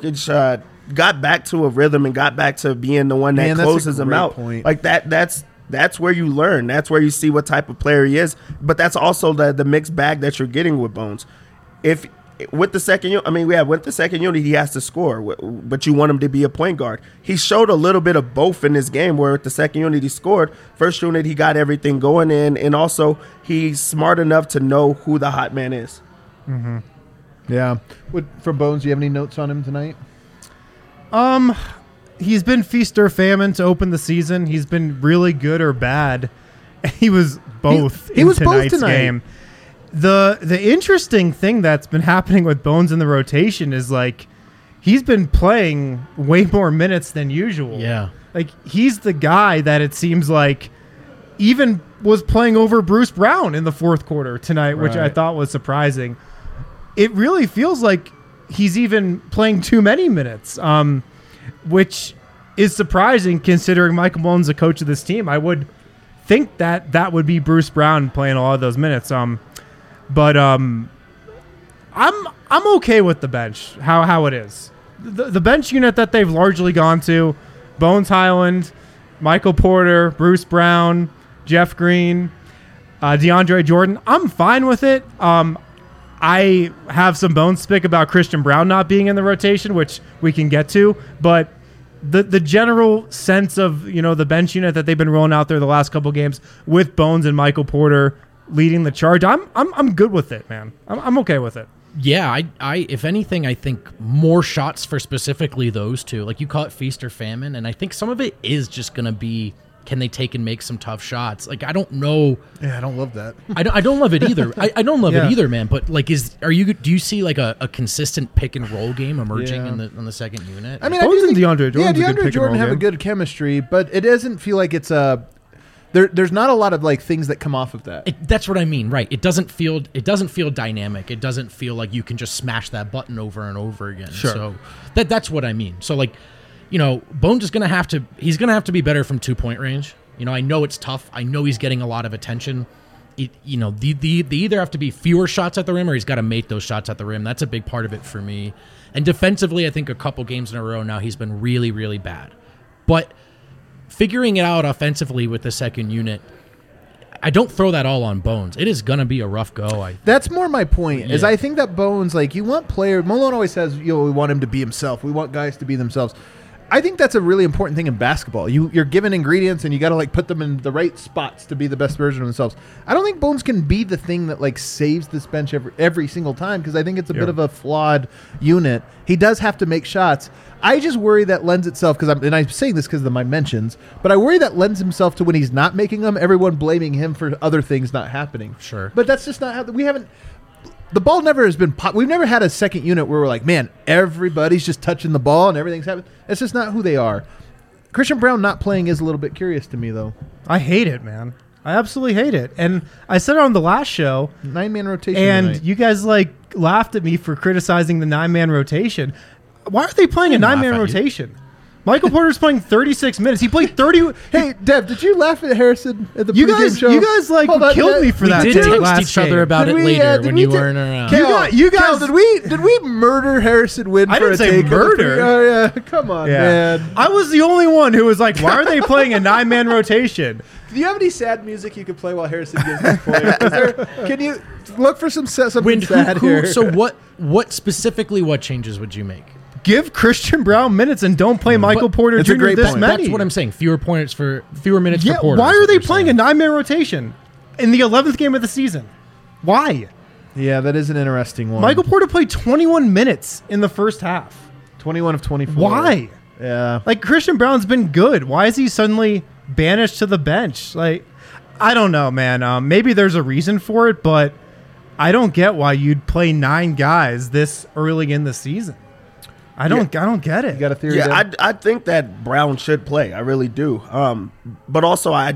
Speaker 4: Jokic got back to a rhythm and got back to being the one that closes him out.
Speaker 3: Point.
Speaker 4: Like that's that's where you learn. That's where you see what type of player he is. But that's also the mixed bag that you're getting with Bones. If with the second unit, with the second unit, he has to score, but you want him to be a point guard. He showed a little bit of both in this game, where with the second unit he scored. First unit he got everything going in, and also he's smart enough to know who the hot man is.
Speaker 3: Mm-hmm. Yeah. From Bones, do you have any notes on him tonight?
Speaker 2: He's been feast or famine to open the season. He's been really good or bad. He was both
Speaker 3: he
Speaker 2: in
Speaker 3: was both
Speaker 2: tonight's
Speaker 3: tonight.
Speaker 2: game. The interesting thing that's been happening with Bones in the rotation is like he's been playing way more minutes than usual.
Speaker 1: Yeah.
Speaker 2: Like he's the guy that it seems like even was playing over Bruce Brown in the fourth quarter tonight, which I
Speaker 3: Right.
Speaker 2: thought was surprising. It really feels like he's even playing too many minutes, which is surprising considering Michael Malone's the coach of this team. I would think that would be Bruce Brown playing a lot of those minutes. But I'm okay with the bench, how it is. The bench unit that they've largely gone to, Bones Highland, Michael Porter, Bruce Brown, Jeff Green, DeAndre Jordan, I'm fine with it. I have some bones to pick about Christian Brown not being in the rotation, which we can get to, but the general sense of, the bench unit that they've been rolling out there the last couple games with Bones and Michael Porter leading the charge, I'm good with it, man. I'm okay with it.
Speaker 1: Yeah, I if anything, I think more shots for specifically those two. Like you call it feast or famine, and I think some of it is just going to be, can they take and make some tough shots? Like I don't know.
Speaker 3: Yeah, I don't love that.
Speaker 1: I don't love it either. I don't love
Speaker 2: Yeah.
Speaker 1: it either, man. But like, do you see like a consistent pick and roll game emerging
Speaker 3: Yeah.
Speaker 1: in the second unit?
Speaker 3: I mean,
Speaker 2: Bones
Speaker 3: I do
Speaker 2: and
Speaker 3: think,
Speaker 2: DeAndre Jordan's a good
Speaker 3: DeAndre
Speaker 2: pick and
Speaker 3: Jordan
Speaker 2: roll
Speaker 3: have a
Speaker 2: game.
Speaker 3: good chemistry, but it doesn't feel like it's there's not a lot of like things that come off of that.
Speaker 1: That's what I mean, right? It doesn't feel dynamic. It doesn't feel like you can just smash that button over and over again.
Speaker 2: Sure.
Speaker 1: So that's what I mean. So like, Bones is gonna have to be better from 2-point range. I know it's tough. I know he's getting a lot of attention. They either have to be fewer shots at the rim or he's got to make those shots at the rim. That's a big part of it for me. And defensively, I think a couple games in a row now he's been really, really bad. But figuring it out offensively with the second unit, I don't throw that all on Bones. It is going to be a rough go.
Speaker 3: That's more my point. Is
Speaker 1: Yeah.
Speaker 3: I think that Bones, like you want Malone always says, we want him to be himself. We want guys to be themselves. I think that's a really important thing in basketball. You're given ingredients and you got to like put them in the right spots to be the best version of themselves. I don't think Bones can be the thing that like saves this bench every single time because I think it's a bit of a flawed unit. He does have to make shots. I just worry that lends itself and I'm saying this because of my mentions, but I worry that lends himself to when he's not making them, everyone blaming him for other things not happening.
Speaker 1: Sure.
Speaker 3: But that's just not how we haven't. The ball never has been we've never had a second unit where we're like, man, everybody's just touching the ball and everything's happening. That's just not who they are. Christian Brown not playing is a little bit curious to me, though.
Speaker 2: I hate it, man. I absolutely hate it. And I said it on the last show,
Speaker 3: 9-man rotation
Speaker 2: and
Speaker 3: tonight.
Speaker 2: you guys laughed at me for criticizing the 9-man rotation. Why are they playing a
Speaker 1: didn't laugh
Speaker 2: 9-man
Speaker 1: at you.
Speaker 2: rotation? Michael Porter's playing 36 minutes. He played 30.
Speaker 3: Hey, Dev, did you laugh at Harrison at the
Speaker 2: You
Speaker 3: pregame
Speaker 2: guys,
Speaker 3: show?
Speaker 2: you guys
Speaker 3: Hold on,
Speaker 2: killed
Speaker 3: Dev.
Speaker 2: me for
Speaker 1: We
Speaker 2: that.
Speaker 1: did
Speaker 2: take
Speaker 1: text
Speaker 2: last
Speaker 1: each other
Speaker 2: game.
Speaker 1: about
Speaker 3: Did
Speaker 1: it
Speaker 3: we,
Speaker 1: later
Speaker 3: did
Speaker 1: when
Speaker 3: we
Speaker 1: you
Speaker 3: ta-
Speaker 1: weren't around.
Speaker 3: Cal,
Speaker 2: You guys-
Speaker 3: Cal, did we murder Harrison Wind
Speaker 2: I
Speaker 3: for
Speaker 2: didn't
Speaker 3: a
Speaker 2: say
Speaker 3: take?
Speaker 2: murder.
Speaker 3: Oh yeah, come on, man.
Speaker 2: I was the only one who was like, "Why are they playing a 9-man rotation?"
Speaker 3: Do you have any sad music you could play while Harrison gives his point? Can you look for something
Speaker 1: Wind,
Speaker 3: sad here?
Speaker 1: So what specifically? What changes would you make?
Speaker 2: Give Christian Brown minutes and don't play Michael Porter
Speaker 3: it's a
Speaker 2: Jr.
Speaker 3: great
Speaker 2: this
Speaker 3: point.
Speaker 2: many.
Speaker 1: That's what I'm saying. Fewer minutes for
Speaker 2: Yeah,
Speaker 1: Porter.
Speaker 2: why
Speaker 1: is
Speaker 2: are
Speaker 1: what
Speaker 2: they
Speaker 1: you're
Speaker 2: playing
Speaker 1: saying.
Speaker 2: a 9-man rotation in the 11th game of the season? Why?
Speaker 3: Yeah, that is an interesting one.
Speaker 2: Michael Porter played 21 minutes in the first half.
Speaker 3: 21 of 24.
Speaker 2: Why?
Speaker 3: Yeah.
Speaker 2: Like, Christian Brown's been good. Why is he suddenly banished to the bench? Like, I don't know, man. Maybe there's a reason for it, but I don't get why you'd play 9 guys this early in the season. I don't get it.
Speaker 3: You got a theory?
Speaker 4: Yeah,
Speaker 3: Dev?
Speaker 4: I think that Brown should play. I really do. But also, I'm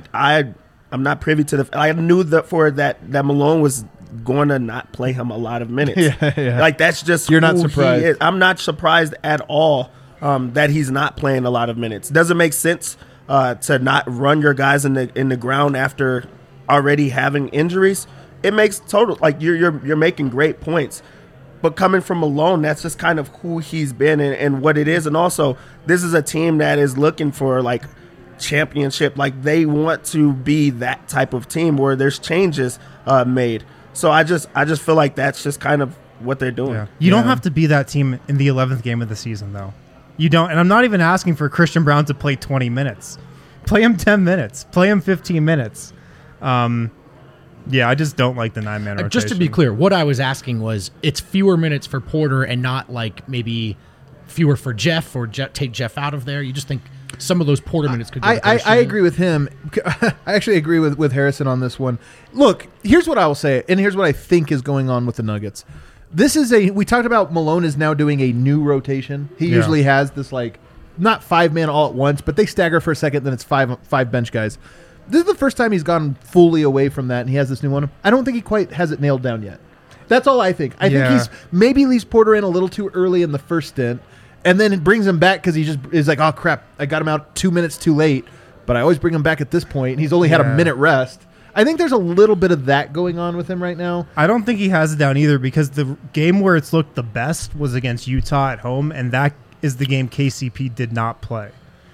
Speaker 4: not privy to the. I knew that Malone was going to not play him a lot of minutes.
Speaker 3: Yeah.
Speaker 4: Like that's just
Speaker 3: You're not
Speaker 4: who he
Speaker 3: surprised.
Speaker 4: is. I'm not surprised at all that he's not playing a lot of minutes. Doesn't make sense to not run your guys in the ground after already having injuries. It makes total like you're making great points. But coming from Malone, that's just kind of who he's been and what it is. And also, this is a team that is looking for like championship. Like, they want to be that type of team where there's changes made. So I just feel like that's just kind of what they're doing.
Speaker 2: Yeah. You don't have to be that team in the 11th game of the season, though. You don't. And I'm not even asking for Christian Braun to play 20 minutes. Play him 10 minutes. Play him 15 minutes. Yeah, I just don't like the 9-man rotation.
Speaker 1: Just to be clear, what I was asking was it's fewer minutes for Porter and not like maybe fewer for Jeff or take Jeff out of there. You just think some of those Porter minutes could go to Christian?
Speaker 3: I agree with him. I actually agree with Harrison on this one. Look, here's what I will say, and here's what I think is going on with the Nuggets. We talked about Malone is now doing a new rotation. He usually has this, like, not 5-man all at once, but they stagger for a second, then it's five bench guys. This is the first time he's gone fully away from that, and he has this new one. I don't think he quite has it nailed down yet. That's all I think. I think he's maybe leaves Porter in a little too early in the first stint, and then it brings him back because he just is like, oh, crap, I got him out 2 minutes too late, but I always bring him back at this point. He's only had a minute rest. I think there's a little bit of that going on with him right now.
Speaker 2: I don't think he has it down either because the game where it's looked the best was against Utah at home, and that is the game KCP did not play.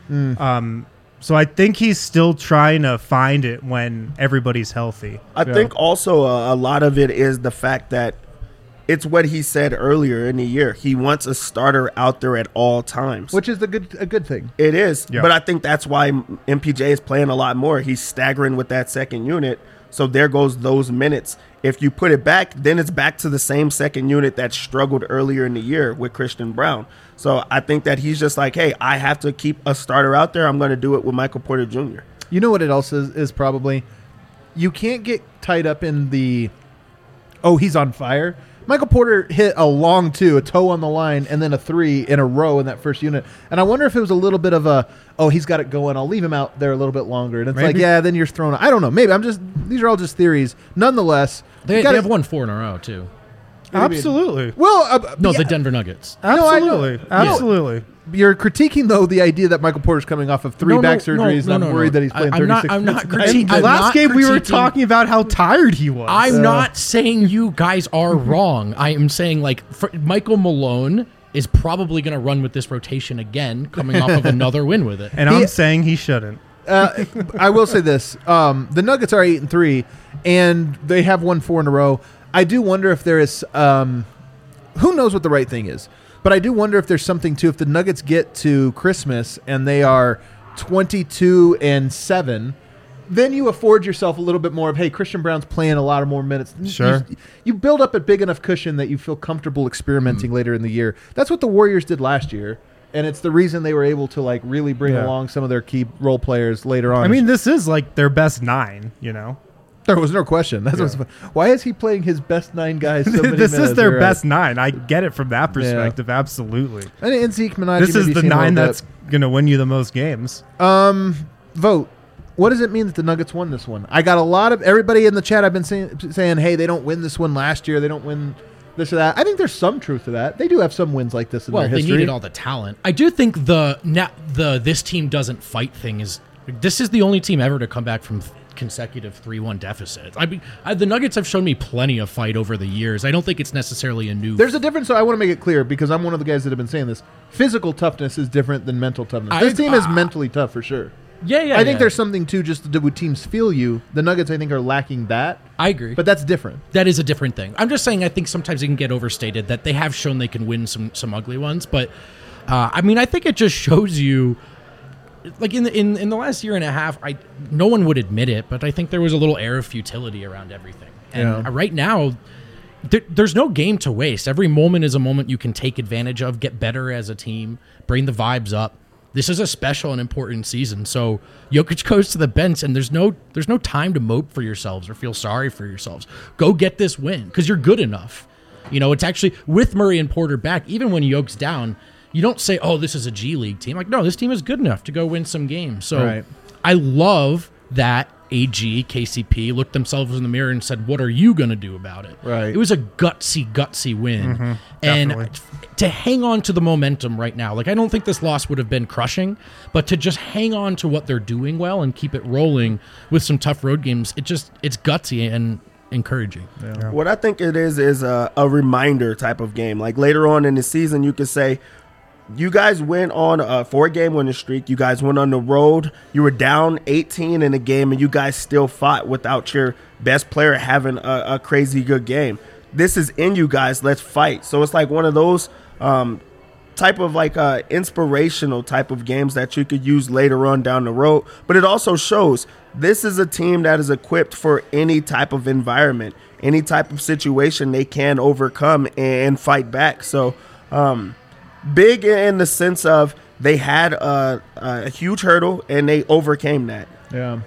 Speaker 2: So I think he's still trying to find it when everybody's healthy.
Speaker 4: I think also a lot of it is the fact that it's what he said earlier in the year. He wants a starter out there at all times.
Speaker 3: Which is a good thing.
Speaker 4: It is. Yeah. But I think that's why MPJ is playing a lot more. He's staggering with that second unit. So there goes those minutes. If you put it back, then it's back to the same second unit that struggled earlier in the year with Christian Braun. So I think that he's just like, hey, I have to keep a starter out there. I'm going to do it with Michael Porter Jr.
Speaker 3: You know what it also is probably? You can't get tied up in the, oh, he's on fire. Michael Porter hit a long two, a toe on the line, and then a three in a row in that first unit. And I wonder if it was a little bit of a, oh, he's got it going. I'll leave him out there a little bit longer. And it's like, yeah, then you're thrown. I don't know. Maybe these are all just theories. Nonetheless.
Speaker 1: They have won 4 in a row, too.
Speaker 2: Absolutely.
Speaker 3: Well,
Speaker 1: the Denver Nuggets.
Speaker 2: Absolutely. Absolutely.
Speaker 3: You're critiquing, though, the idea that Michael Porter's coming off of 3 back surgeries, and I'm worried that he's playing 36
Speaker 1: I'm not
Speaker 3: minutes.
Speaker 1: critiquing.
Speaker 2: Last game, we were talking about how tired he was.
Speaker 1: I'm not saying you guys are wrong. I am saying, like, Michael Malone is probably going to run with this rotation again, coming off of another win with it.
Speaker 2: And I'm saying he shouldn't.
Speaker 3: I will say this. The Nuggets are 8-3, and they have won 4 in a row. I do wonder if there is who knows what the right thing is, but I do wonder if there's something to if the Nuggets get to Christmas and they are 22-7, then you afford yourself a little bit more of, hey, Christian Braun's playing a lot of more minutes.
Speaker 2: Sure.
Speaker 3: You build up a big enough cushion that you feel comfortable experimenting later in the year. That's what the Warriors did last year. And it's the reason they were able to, like, really bring along some of their key role players later on.
Speaker 2: I mean, this is like their best 9, you know?
Speaker 3: There was no question. Why is he playing his best 9 guys so many
Speaker 2: This
Speaker 3: minutes?
Speaker 2: is their best 9. I get it from that perspective. Yeah. Absolutely.
Speaker 3: And Zeke Minaj.
Speaker 2: This is the 9 that's going to win you the most games.
Speaker 3: Vote. What does it mean that the Nuggets won this one? I got a lot of everybody in the chat. I've been saying, hey, they don't win this one last year. They don't win this or that. I think there's some truth to that. They do have some wins like this in their history.
Speaker 1: Well, they needed all the talent. I do think the this team doesn't fight thing is this is the only team ever to come back from consecutive 3-1 deficits. I mean, the Nuggets have shown me plenty of fight over the years. I don't think it's necessarily a new.
Speaker 3: There's a difference, so I want to make it clear because I'm one of the guys that have been saying this. Physical toughness is different than mental toughness. This team is mentally tough for sure.
Speaker 1: Yeah.
Speaker 3: I think there's something to just the way teams feel you. The Nuggets, I think, are lacking that.
Speaker 1: I agree,
Speaker 3: but that's different.
Speaker 1: That is a different thing. I'm just saying I think sometimes it can get overstated that they have shown they can win some ugly ones, but I mean I think it just shows you. Like in the last year and a half, no one would admit it, but I think there was a little air of futility around everything. And right now, there's no game to waste. Every moment is a moment you can take advantage of, get better as a team, bring the vibes up. This is a special and important season. So Jokic goes to the bench, and there's no time to mope for yourselves or feel sorry for yourselves. Go get this win because you're good enough. You know, it's actually with Murray and Porter back, even when Jokic's down. You don't say, oh, this is a G League team. Like, no, this team is good enough to go win some games. So I love that AG, KCP looked themselves in the mirror and said, what are you going to do about it?
Speaker 3: Right.
Speaker 1: It was a gutsy win. And to hang on to the momentum right now, like I don't think this loss would have been crushing, but to just hang on to what they're doing well and keep it rolling with some tough road games, it's gutsy and encouraging.
Speaker 4: Yeah. What I think it is a reminder type of game. Like later on in the season, you could say, you guys went on a 4-game winning streak. You guys went on the road. You were down 18 in the game, and you guys still fought without your best player having a crazy good game. This is in you guys. Let's fight. So it's like one of those type of like inspirational type of games that you could use later on down the road. But it also shows this is a team that is equipped for any type of environment, any type of situation they can overcome and fight back. So big in the sense of they had a huge hurdle and they overcame that.
Speaker 3: Yeah.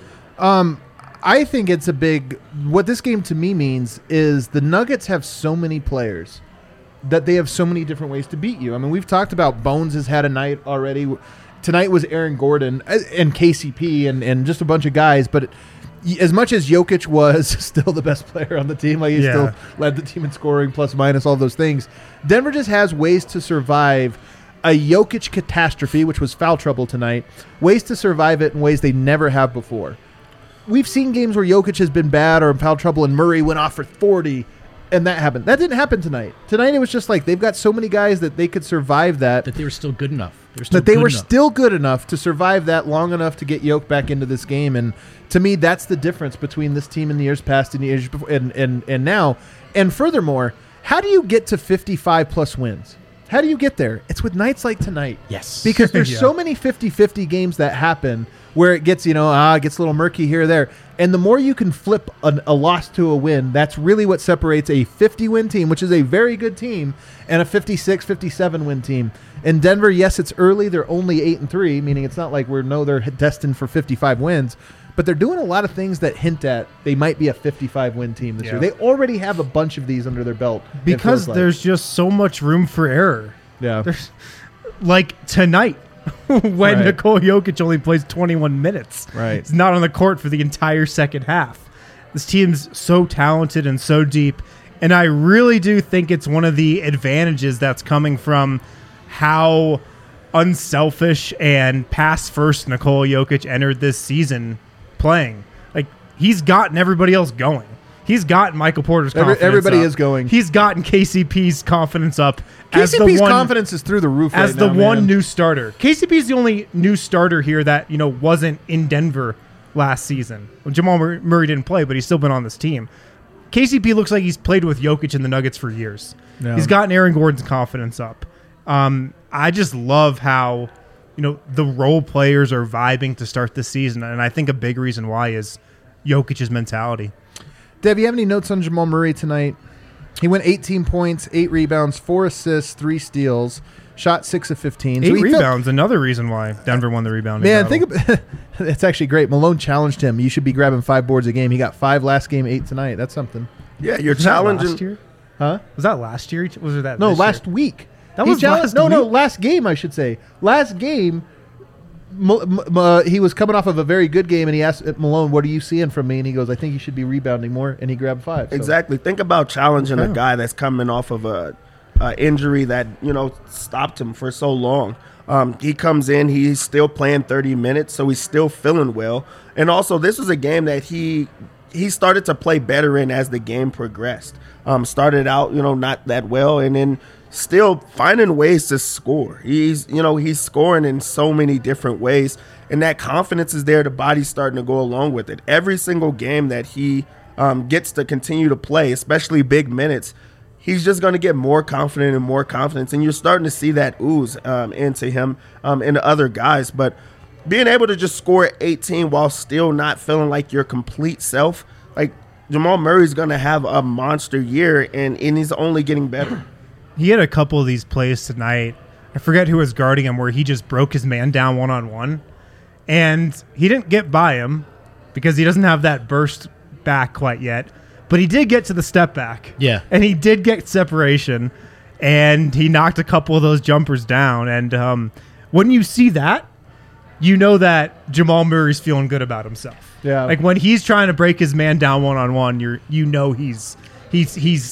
Speaker 3: I think it's a big – what this game to me means is the Nuggets have so many players that they have so many different ways to beat you. I mean, we've talked about Bones has had a night already. Tonight was Aaron Gordon and KCP and just a bunch of guys. But as much as Jokic was still the best player on the team, like he still led the team in scoring, plus minus, all those things, Denver just has ways to survive a Jokic catastrophe, which was foul trouble tonight, ways to survive it in ways they never have before. We've seen games where Jokic has been bad or in foul trouble and Murray went off for 40 and that happened. That didn't happen tonight. Tonight it was just like they've got so many guys that they could survive that.
Speaker 1: That they were still good enough.
Speaker 3: Still good enough to survive that long enough to get Jokic back into this game. And to me, that's the difference between this team in the years past and the years before and now. And furthermore, how do you get to 55-plus wins? How do you get there? It's with nights like tonight.
Speaker 1: Yes.
Speaker 3: Because there's so many 50-50 games that happen where it gets, it gets a little murky here or there. And the more you can flip a loss to a win, that's really what separates a 50-win team, which is a very good team, and a 56, 57-win team. In Denver, yes, it's early. They're only 8-3, meaning it's not like they're destined for 55 wins. But they're doing a lot of things that hint at they might be a 55-win team this year. They already have a bunch of these under their belt.
Speaker 2: Because there's just so much room for error.
Speaker 3: Yeah.
Speaker 2: There's, like tonight, when Nikola Jokic only plays 21 minutes.
Speaker 3: Right.
Speaker 2: He's not on the court for the entire second half. This team's so talented and so deep. And I really do think it's one of the advantages that's coming from how unselfish and pass-first Nikola Jokic entered this season playing. Like, he's gotten everybody else going. He's gotten Michael Porter's confidence
Speaker 3: Everybody
Speaker 2: up.
Speaker 3: is going.
Speaker 2: He's gotten KCP's confidence up.
Speaker 3: KCP's confidence is through the roof
Speaker 2: as
Speaker 3: right
Speaker 2: the
Speaker 3: now,
Speaker 2: one
Speaker 3: man.
Speaker 2: new starter. KCP's the only new starter here that, wasn't in Denver last season. Well, Jamal Murray didn't play, but he's still been on this team. KCP looks like he's played with Jokic and the Nuggets for years.
Speaker 3: Yeah.
Speaker 2: He's gotten Aaron Gordon's confidence up. I just love how, the role players are vibing to start this season. And I think a big reason why is Jokic's mentality.
Speaker 3: Dev, you have any notes on Jamal Murray tonight? He went 18 points, 8 rebounds, 4 assists, 3 steals, shot 6 of 15.
Speaker 2: 8 rebounds, another reason why Denver won the rebounding
Speaker 3: Man,
Speaker 2: battle.
Speaker 3: it's actually great. Malone challenged him. You should be grabbing 5 boards a game. He got 5 last game, 8 tonight. That's something.
Speaker 4: Yeah, you're
Speaker 2: Was
Speaker 4: challenging.
Speaker 2: that last year?
Speaker 3: Huh?
Speaker 2: Was that last year? Was it that?
Speaker 3: No,
Speaker 2: this
Speaker 3: last
Speaker 2: year?
Speaker 3: week.
Speaker 2: That
Speaker 3: He
Speaker 2: was
Speaker 3: challenged-
Speaker 2: last
Speaker 3: No,
Speaker 2: week?
Speaker 3: last game, I should say. Last game, he was coming off of a very good game, and he asked Malone, "What are you seeing from me?" And he goes, "I think you should be rebounding more." And he grabbed 5. So.
Speaker 4: Exactly. Think about challenging a guy that's coming off of a injury that stopped him for so long. He comes in, he's still playing 30 minutes, so he's still feeling well. And also, this was a game that he started to play better in as the game progressed. Started out, not that well, and then still finding ways to score. He's scoring in so many different ways, and that confidence is there. The body's starting to go along with it. Every single game that he gets to continue to play, especially big minutes, he's just going to get more confident and more confidence, and you're starting to see that ooze into him and other guys. But being able to just score 18 while still not feeling like your complete self, like Jamal Murray's going to have a monster year, and he's only getting better.
Speaker 2: He had a couple of these plays tonight. I forget who was guarding him, where he just broke his man down one-on-one. And he didn't get by him because he doesn't have that burst back quite yet. But he did get to the step back.
Speaker 1: Yeah.
Speaker 2: And he did get separation. And he knocked a couple of those jumpers down. And when you see that, you know that Jamal Murray's feeling good about himself.
Speaker 3: Yeah.
Speaker 2: Like when he's trying to break his man down one-on-one, you know he's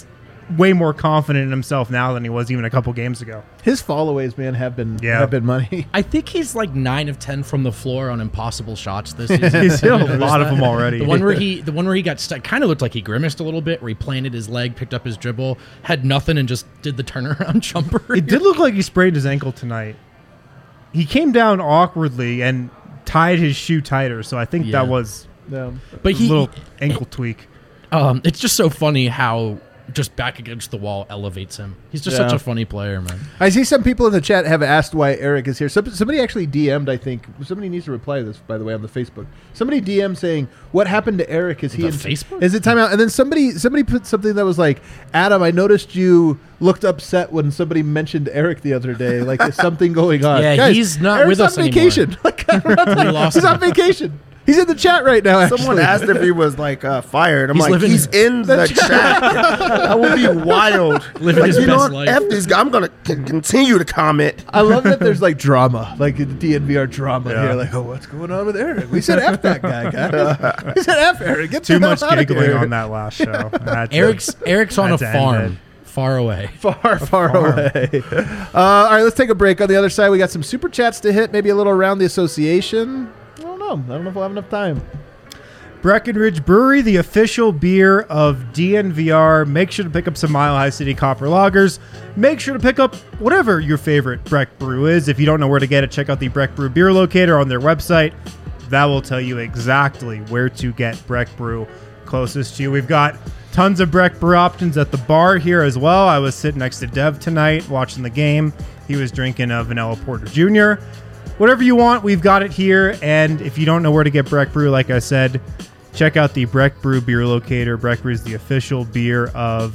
Speaker 2: way more confident in himself now than he was even a couple games ago.
Speaker 3: His followays, man, have been money.
Speaker 1: I think he's like 9 of 10 from the floor on impossible shots this season.
Speaker 2: He's hit a lot of them already.
Speaker 1: The one where he got stuck kind of looked like he grimaced a little bit, where he planted his leg, picked up his dribble, had nothing, and just did the turnaround jumper.
Speaker 2: It did look like he sprained his ankle tonight. He came down awkwardly and tied his shoe tighter, so I think that was
Speaker 3: No.
Speaker 1: But
Speaker 2: a little ankle tweak.
Speaker 1: It's just so funny how just back against the wall elevates him. He's just such a funny player, man.
Speaker 3: I see some people in the chat have asked why Eric is here. Somebody actually DM'd, I think. Somebody needs to reply to this, by the way, on the Facebook. Somebody DM'd saying, what happened to Eric? Is he in
Speaker 1: Facebook?
Speaker 3: Is it timeout? And then somebody put something that was like, Adam, I noticed you looked upset when somebody mentioned Eric the other day. Like, is something going on?
Speaker 1: Yeah,
Speaker 3: Guys,
Speaker 1: he's not
Speaker 3: Eric's
Speaker 1: with us
Speaker 3: on vacation.
Speaker 1: lost
Speaker 3: He's
Speaker 1: him.
Speaker 3: on vacation. He's in the chat right now, actually.
Speaker 4: Someone asked if he was like fired. I'm
Speaker 1: He's
Speaker 4: like,
Speaker 1: living
Speaker 4: he's in the chat. That would be wild.
Speaker 1: Living his
Speaker 4: you know
Speaker 1: best
Speaker 4: what?
Speaker 1: life.
Speaker 4: F this guy. I'm gonna continue to comment.
Speaker 3: I love that there's like drama, like the DNVR drama
Speaker 2: Yeah.
Speaker 3: here. Like, oh, what's going on with Eric? We said F that guy, guys. We said F Eric. Get
Speaker 2: Too
Speaker 3: the hell
Speaker 2: much
Speaker 3: outta
Speaker 2: giggling
Speaker 3: here.
Speaker 2: on that last show.
Speaker 1: Eric's on a
Speaker 2: Had to end
Speaker 1: farm
Speaker 2: it.
Speaker 1: far away.
Speaker 3: Far away. All right, let's take a break. On the other side, we got some super chats to hit, maybe a little around the association. I don't know if we'll have enough time.
Speaker 2: Breckenridge Brewery, the official beer of DNVR. Make sure to pick up some Mile High City Copper Lagers. Make sure to pick up whatever your favorite Breck Brew is. If you don't know where to get it, check out the Breck Brew Beer Locator on their website. That will tell you exactly where to get Breck Brew closest to you. We've got tons of Breck Brew options at the bar here as well. I was sitting next to Dev tonight watching the game. He was drinking a Vanilla Porter Jr. Whatever you want, we've got it here. And if you don't know where to get Breck Brew, like I said, check out the Breck Brew Beer Locator. Breck Brew is the official beer of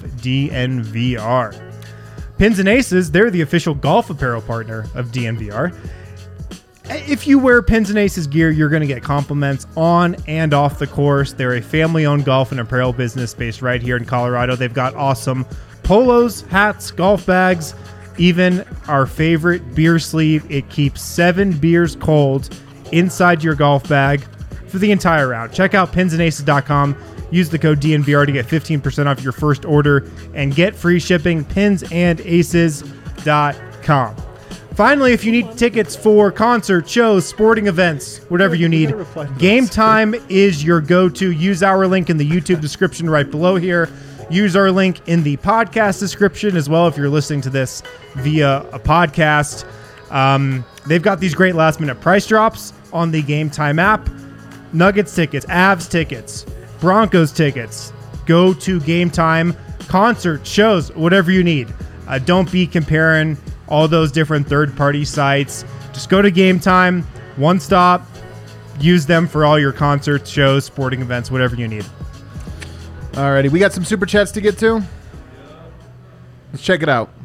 Speaker 2: DNVR. Pins and Aces, they're the official golf apparel partner of DNVR. If you wear Pins and Aces gear, you're going to get compliments on and off the course. They're a family-owned golf and apparel business based right here in Colorado. They've got awesome polos, hats, golf bags, even our favorite beer sleeve. It keeps 7 beers cold inside your golf bag for the entire round. Check out pinsandaces.com. Use the code DNVR to get 15% off your first order and get free shipping. pinsandaces.com. Finally, if you need tickets for concerts, shows, sporting events, whatever you need, Game Time is your go-to. Use our link in the YouTube description right below here. Use our link in the podcast description as well if you're listening to this via a podcast. They've got these great last-minute price drops on the Game Time app. Nuggets tickets, Avs tickets, Broncos tickets. Go to Game Time, concert, shows, whatever you need. Don't be comparing all those different third-party sites. Just go to Game Time, one stop. Use them for all your concerts, shows, sporting events, whatever you need.
Speaker 3: Alrighty, we got some super chats to get to. Let's check it out.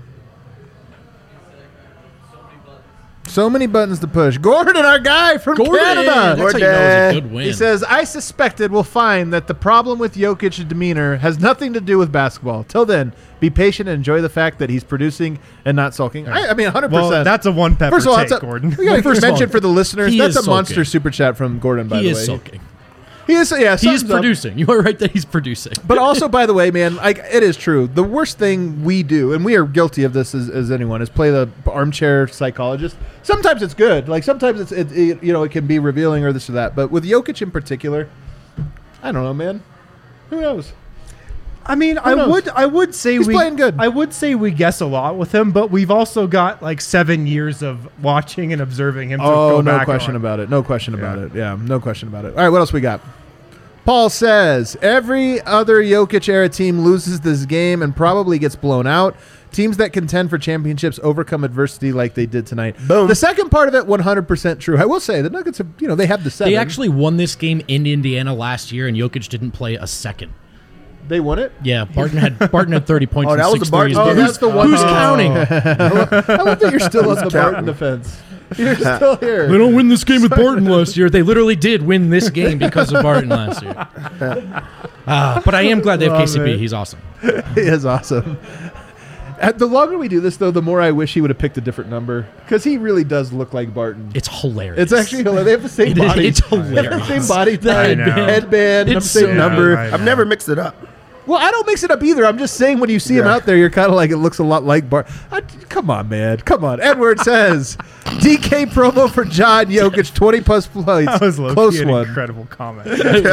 Speaker 3: So many buttons to push. Gordon, our guy from Canada.
Speaker 1: That's how you know it was a good win.
Speaker 3: He says, I suspected we'll find that the problem with Jokic's demeanor has nothing to do with basketball. Till then, be patient and enjoy the fact that he's producing and not sulking. I mean, 100%.
Speaker 2: Well, that's a one-pepper
Speaker 3: First of all,
Speaker 2: take,
Speaker 3: that's
Speaker 2: Gordon.
Speaker 3: We got to
Speaker 1: First of all,
Speaker 3: mention for the listeners,
Speaker 1: he
Speaker 3: that's
Speaker 1: is
Speaker 3: a monster
Speaker 1: sulking.
Speaker 3: super chat from Gordon, by
Speaker 1: He
Speaker 3: the
Speaker 1: is
Speaker 3: way.
Speaker 1: sulking.
Speaker 3: He is, yeah,
Speaker 1: He is
Speaker 3: thumbs up.
Speaker 1: producing. You are right that he's producing.
Speaker 3: But also, by the way, man, like it is true. The worst thing we do, and we are guilty of this as anyone, is play the armchair psychologist. Sometimes it's good. Like sometimes it can be revealing or this or that. But with Jokic in particular, I don't know, man. Who knows?
Speaker 2: I mean,
Speaker 3: knows?
Speaker 2: I would say
Speaker 3: He's playing good.
Speaker 2: I would say we guess a lot with him, but we've also got like 7 years of watching and observing him. To
Speaker 3: Oh,
Speaker 2: go
Speaker 3: no
Speaker 2: back
Speaker 3: question
Speaker 2: on.
Speaker 3: about it. No question about
Speaker 2: Yeah.
Speaker 3: it. Yeah, no question about it. All right, what else we got? Paul says, every other Jokic-era team loses this game and probably gets blown out. Teams that contend for championships overcome adversity like they did tonight.
Speaker 4: Boom.
Speaker 3: The second part of it, 100% true. I will say, the Nuggets have, they have the 7.
Speaker 1: They actually won this game in Indiana last year, and Jokic didn't play a second.
Speaker 3: They won it?
Speaker 1: Yeah, Barton had 30 points
Speaker 4: Oh,
Speaker 1: and
Speaker 4: that was
Speaker 1: 6
Speaker 4: the Barton-
Speaker 1: threes.
Speaker 3: Oh,
Speaker 1: but
Speaker 3: that's the one.
Speaker 1: Who's
Speaker 3: Oh.
Speaker 1: counting?
Speaker 3: I love that you're still on the Barton defense. You're still here.
Speaker 1: They don't win this game with Barton last year. They literally did win this game because of Barton last year. But I am glad they have
Speaker 3: Love
Speaker 1: KCP.
Speaker 3: it.
Speaker 1: He's awesome.
Speaker 3: He is awesome. The longer we do this, though, the more I wish he would have picked a different number because he really does look like Barton.
Speaker 1: It's hilarious.
Speaker 3: It's actually hilarious. They have the same
Speaker 1: It is-
Speaker 3: body.
Speaker 1: it's
Speaker 3: They have the
Speaker 1: hilarious.
Speaker 3: same body type,
Speaker 2: know.
Speaker 3: headband,
Speaker 1: It's
Speaker 3: same
Speaker 1: so
Speaker 3: number.
Speaker 2: I
Speaker 4: I've
Speaker 2: know.
Speaker 4: never mixed it up.
Speaker 3: Well, I don't mix it up either. I'm just saying when you see him out there, you're kind of like, it looks a lot like Bart. Come on, man. Come on. Edward says, DK promo for John Jokic, 20-plus points.
Speaker 2: That was
Speaker 3: Close
Speaker 2: an
Speaker 3: one.
Speaker 2: incredible comment.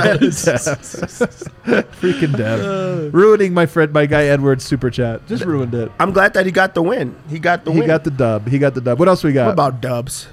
Speaker 3: Freaking Dev. Ruining my guy Edward's super chat. Just ruined it.
Speaker 4: I'm glad that he got the win. He got the
Speaker 3: He
Speaker 4: win.
Speaker 3: got the dub. What else we got?
Speaker 4: What about dubs?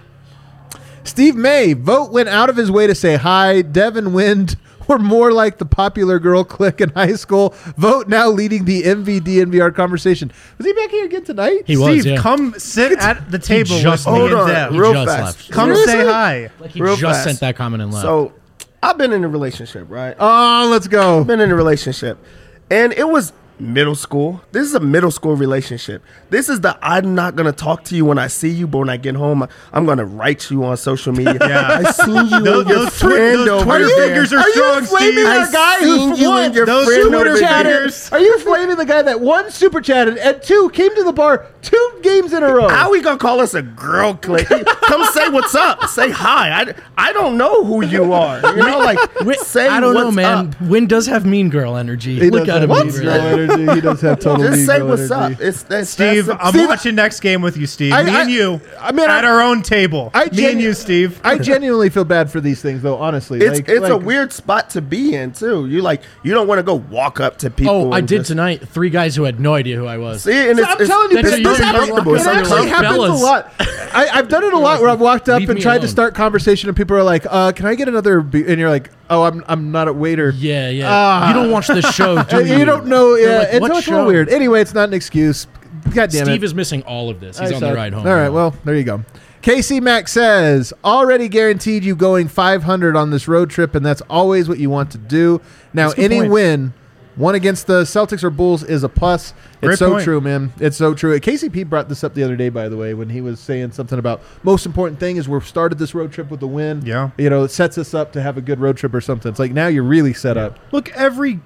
Speaker 3: Steve May. Vote went out of his way to say hi. Devin Wind were more like the popular girl clique in high school. Vote now leading the MVD-NVR conversation. Was he back here again tonight?
Speaker 1: He was,
Speaker 2: Steve,
Speaker 1: yeah.
Speaker 2: come sit at the table with
Speaker 1: just-
Speaker 2: me
Speaker 4: Hold
Speaker 2: and
Speaker 4: on,
Speaker 2: Dev.
Speaker 1: He
Speaker 4: real
Speaker 1: just
Speaker 4: fast.
Speaker 1: left.
Speaker 2: Come
Speaker 3: Seriously?
Speaker 2: say hi.
Speaker 1: Like he
Speaker 4: Real
Speaker 1: just
Speaker 4: fast.
Speaker 1: sent that comment and left.
Speaker 4: So I've been in a relationship, right?
Speaker 3: Oh, let's go.
Speaker 4: Been in a relationship, and it was middle school. This is a middle school relationship. This is the I'm not gonna talk to you when I see you, but when I get home, I'm gonna write you on social media.
Speaker 2: Yeah.
Speaker 4: I seen you and your friend over
Speaker 2: Twitter
Speaker 4: there.
Speaker 2: fingers are
Speaker 3: Are you
Speaker 2: strong,
Speaker 3: flaming
Speaker 2: Steve.
Speaker 3: our guy
Speaker 4: seen
Speaker 3: who
Speaker 4: you
Speaker 3: won?
Speaker 4: and your
Speaker 2: Those
Speaker 4: friend
Speaker 2: Twitter
Speaker 4: over there.
Speaker 2: fingers.
Speaker 3: Are you flaming the guy that one super chatted and two came to the bar 2 games in a row?
Speaker 4: How we gonna call us a girl clique? Come say what's up. Say hi. I don't know who you are. You know, like say
Speaker 1: I don't know,
Speaker 4: what's
Speaker 1: man.
Speaker 4: up.
Speaker 1: Win does have mean girl energy.
Speaker 3: He
Speaker 1: Look
Speaker 3: does
Speaker 1: at him.
Speaker 3: have
Speaker 1: over
Speaker 3: mean
Speaker 1: there.
Speaker 3: girl energy. He does have total
Speaker 4: Just
Speaker 3: mean
Speaker 4: say
Speaker 3: girl
Speaker 4: what's
Speaker 3: energy.
Speaker 4: up. That's
Speaker 2: Steve,
Speaker 4: simple.
Speaker 2: I'm
Speaker 3: Steve-
Speaker 2: watching next game with you, Steve.
Speaker 3: I-
Speaker 2: Me
Speaker 3: I-
Speaker 2: and you
Speaker 3: I mean,
Speaker 2: at our own table. Me and you, Steve.
Speaker 3: I genuinely feel bad for these things, though. Honestly,
Speaker 4: It's a weird spot to be in too. You don't want to go walk up to people.
Speaker 1: Oh, I
Speaker 4: and
Speaker 1: did
Speaker 4: just-
Speaker 1: tonight. 3 guys who had no idea who I was.
Speaker 4: See, and
Speaker 3: I'm telling you,
Speaker 1: That's
Speaker 3: this,
Speaker 1: a
Speaker 3: this
Speaker 1: young
Speaker 3: happens,
Speaker 1: couple.
Speaker 3: it
Speaker 1: It's like
Speaker 3: actually happens
Speaker 1: fellas.
Speaker 3: a lot. I've done it a lot where I've walked up
Speaker 1: Leave
Speaker 3: and
Speaker 1: me
Speaker 3: tried to
Speaker 1: alone.
Speaker 3: start conversation, and people are like, "Can I get another?" And you're like, "Oh, I'm not a waiter."
Speaker 1: Yeah, yeah.
Speaker 3: Ah.
Speaker 1: You don't watch the show, do
Speaker 3: And
Speaker 1: you?
Speaker 3: you don't know.
Speaker 1: They're
Speaker 3: Yeah,
Speaker 1: like,
Speaker 3: it's,
Speaker 1: what
Speaker 3: it's a little
Speaker 1: show?
Speaker 3: weird. Anyway, it's not an excuse. God damn
Speaker 1: Steve
Speaker 3: it.
Speaker 1: is missing all of this. He's
Speaker 3: I
Speaker 1: on
Speaker 3: saw
Speaker 1: the
Speaker 3: it.
Speaker 1: ride home.
Speaker 3: All right,
Speaker 1: now.
Speaker 3: well, there you go. Casey Mack says, already guaranteed you going 500 on this road trip, and that's always what you want to do. Now,
Speaker 2: That's a good
Speaker 3: any
Speaker 2: point.
Speaker 3: win, one against the Celtics or Bulls, is a plus. It's
Speaker 2: Great
Speaker 3: so
Speaker 2: point.
Speaker 3: true, man. It's so true. KCP brought this up the other day, by the way, when he was saying something about most important thing is we've started this road trip with a win.
Speaker 2: Yeah.
Speaker 3: You know, it sets us up to have a good road trip or something. It's like now you're really set up.
Speaker 2: Look, every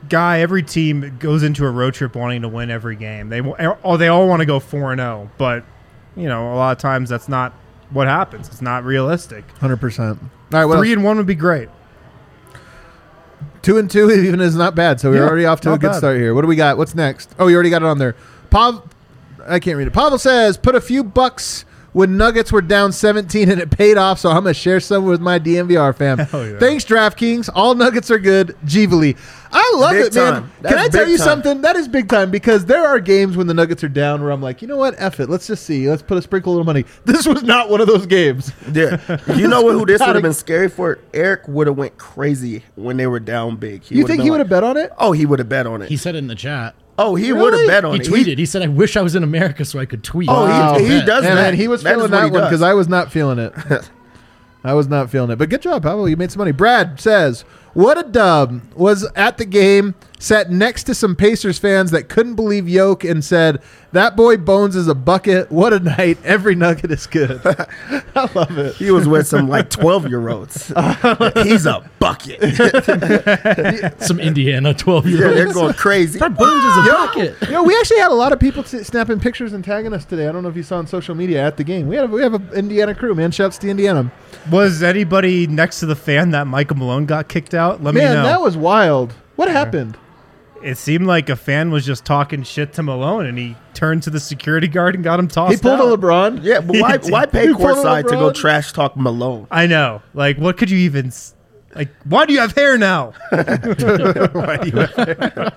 Speaker 2: team goes into a road trip wanting to win every game. They all want to go 4-0, but a lot of times that's not what happens. It's not realistic.
Speaker 3: 100%. All right, what
Speaker 2: 3-1 would be great.
Speaker 3: 2-2 even is not bad. So we're
Speaker 2: Yeah,
Speaker 3: already off to a
Speaker 2: not
Speaker 3: good
Speaker 2: bad.
Speaker 3: start here. What do we got? What's next? Oh, you already got it on there. I can't read it. Pavel says, put a few bucks when Nuggets were down 17 and it paid off, so I'm going to share some with my DMVR fam.
Speaker 2: Hell yeah.
Speaker 3: Thanks, DraftKings. All Nuggets are good. Givali. I love
Speaker 4: Big
Speaker 3: it, man.
Speaker 4: time.
Speaker 3: Can I
Speaker 4: That's
Speaker 3: tell
Speaker 4: big
Speaker 3: you
Speaker 4: time.
Speaker 3: something? That is big time because there are games when the Nuggets are down where I'm like, you know what? F it. Let's just see. Let's put a sprinkle of little money. This was not one of those games.
Speaker 4: Yeah, you know who this
Speaker 3: Not
Speaker 4: would
Speaker 3: a-
Speaker 4: have been scary for? Eric would have went crazy when they were down big.
Speaker 3: You think he would have
Speaker 4: been
Speaker 3: bet on it?
Speaker 4: like, oh, he would have bet on it.
Speaker 1: He said it in the chat.
Speaker 4: Oh, he
Speaker 3: Really?
Speaker 4: would have bet on
Speaker 1: He
Speaker 4: it.
Speaker 1: tweeted. He said, I wish I was in America so I could tweet.
Speaker 4: Oh,
Speaker 3: Wow.
Speaker 4: he does
Speaker 3: Yeah,
Speaker 4: that.
Speaker 3: man, he was
Speaker 4: That is
Speaker 3: feeling
Speaker 4: what
Speaker 3: that
Speaker 4: he
Speaker 3: one
Speaker 4: does.
Speaker 3: because I was not feeling it. I was not feeling it. But good job, Pavel. You made some money. Brad says, what a dub. Was at the game, sat next to some Pacers fans that couldn't believe Yoke and said, that boy Bones is a bucket. What a night. Every nugget is good. I love it.
Speaker 4: He was with some like 12-year-olds. He's a bucket.
Speaker 1: Some Indiana
Speaker 4: Yeah,
Speaker 1: 12-year-olds.
Speaker 4: they're going crazy.
Speaker 1: That Bones is a bucket.
Speaker 3: You know, we actually had a lot of people snapping pictures and tagging us today. I don't know if you saw on social media at the game. We have an Indiana crew, man. Shouts to Indiana.
Speaker 2: Was anybody next to the fan that Michael Malone got kicked out? Let me
Speaker 3: Man,
Speaker 2: know.
Speaker 3: that was wild. What happened?
Speaker 2: It seemed like a fan was just talking shit to Malone, and he turned to the security guard and got him tossed
Speaker 3: He pulled
Speaker 2: out.
Speaker 3: a LeBron.
Speaker 4: Yeah, but why pay
Speaker 3: He pulled a
Speaker 4: courtside to go
Speaker 3: LeBron.
Speaker 4: trash talk Malone?
Speaker 2: I know. Like, what could you even... Like, why do you have hair now?
Speaker 3: Why do you have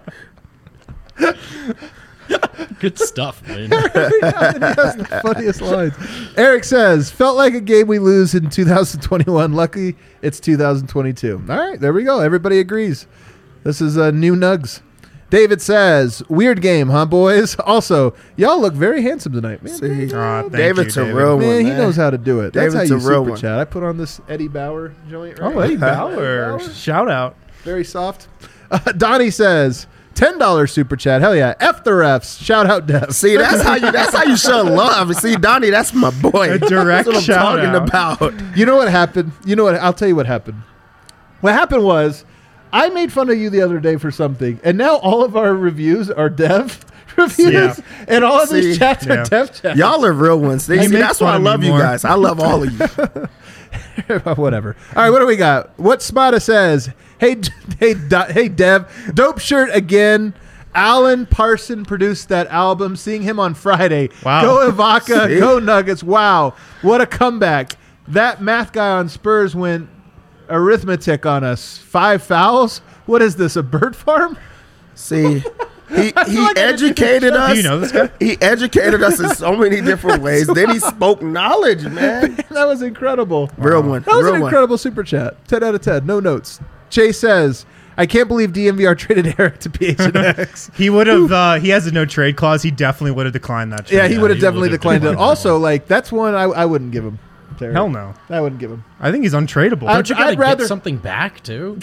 Speaker 1: Good stuff, man.
Speaker 3: That's the funniest lines. Eric says, felt like a game we lose in 2021. Lucky it's 2022. All right, there we go. Everybody agrees. This is new Nugs. David says, weird game, huh, boys? Also, y'all look very handsome tonight. Man,
Speaker 4: See,
Speaker 2: Thank
Speaker 4: David's
Speaker 2: you,
Speaker 4: a
Speaker 2: David.
Speaker 4: real one,
Speaker 3: man,
Speaker 4: man.
Speaker 3: he knows how to do it. That's
Speaker 4: David's
Speaker 3: how
Speaker 4: a
Speaker 3: you
Speaker 4: real
Speaker 3: super
Speaker 4: one.
Speaker 3: chat. I put on this Eddie Bauer joint. Right?
Speaker 2: Oh, Eddie Bauer. Shout out.
Speaker 3: Very soft. Donnie says, $10 super chat. Hell yeah. F the refs. Shout out Dev.
Speaker 4: See, that's how you show love. See, Donnie, that's my boy.
Speaker 2: A direct
Speaker 4: that's what I'm
Speaker 2: shout
Speaker 4: talking
Speaker 2: out.
Speaker 4: about.
Speaker 3: You know what happened? You know what? I'll tell you what happened. What happened was I made fun of you the other day for something, and now all of our reviews are Dev reviews,
Speaker 2: Yeah.
Speaker 3: and all of these
Speaker 4: See?
Speaker 3: chats are
Speaker 2: Yeah.
Speaker 3: Dev chats.
Speaker 4: Y'all are real ones. See,
Speaker 2: make
Speaker 4: that's why I
Speaker 2: fun of me
Speaker 4: love you
Speaker 2: more.
Speaker 4: guys. I love all of you.
Speaker 3: Whatever. All right, what do we got? What Spada says, Hey, Dev. Dope shirt again. Alan Parson produced that album. Seeing him on Friday.
Speaker 2: Wow.
Speaker 3: Go Ibaka.
Speaker 4: See?
Speaker 3: Go Nuggets. Wow. What a comeback. That math guy on Spurs went arithmetic on us. 5 fouls? What is this, a bird farm?
Speaker 4: See, he
Speaker 3: like
Speaker 4: educated us.
Speaker 2: Do you know this guy?
Speaker 4: He educated us in so many different ways. Then he spoke knowledge, man.
Speaker 3: That was incredible.
Speaker 4: Real one.
Speaker 3: That was
Speaker 4: Real
Speaker 3: an
Speaker 4: one.
Speaker 3: incredible super chat. 10 out of 10. No notes. Chase says, I can't believe DMVR traded Eric to PHNX.
Speaker 2: He would have. He has a no trade clause. He definitely would have declined that.
Speaker 3: Yeah,
Speaker 2: trade.
Speaker 3: he would have
Speaker 1: he
Speaker 3: definitely
Speaker 1: would've
Speaker 3: declined it.
Speaker 1: declined that
Speaker 3: Also, like, that's one I wouldn't give him. Terry.
Speaker 2: Hell no.
Speaker 3: I wouldn't give him.
Speaker 2: I think he's untradeable.
Speaker 1: Don't you gotta
Speaker 3: I'd rather-
Speaker 1: get something back too?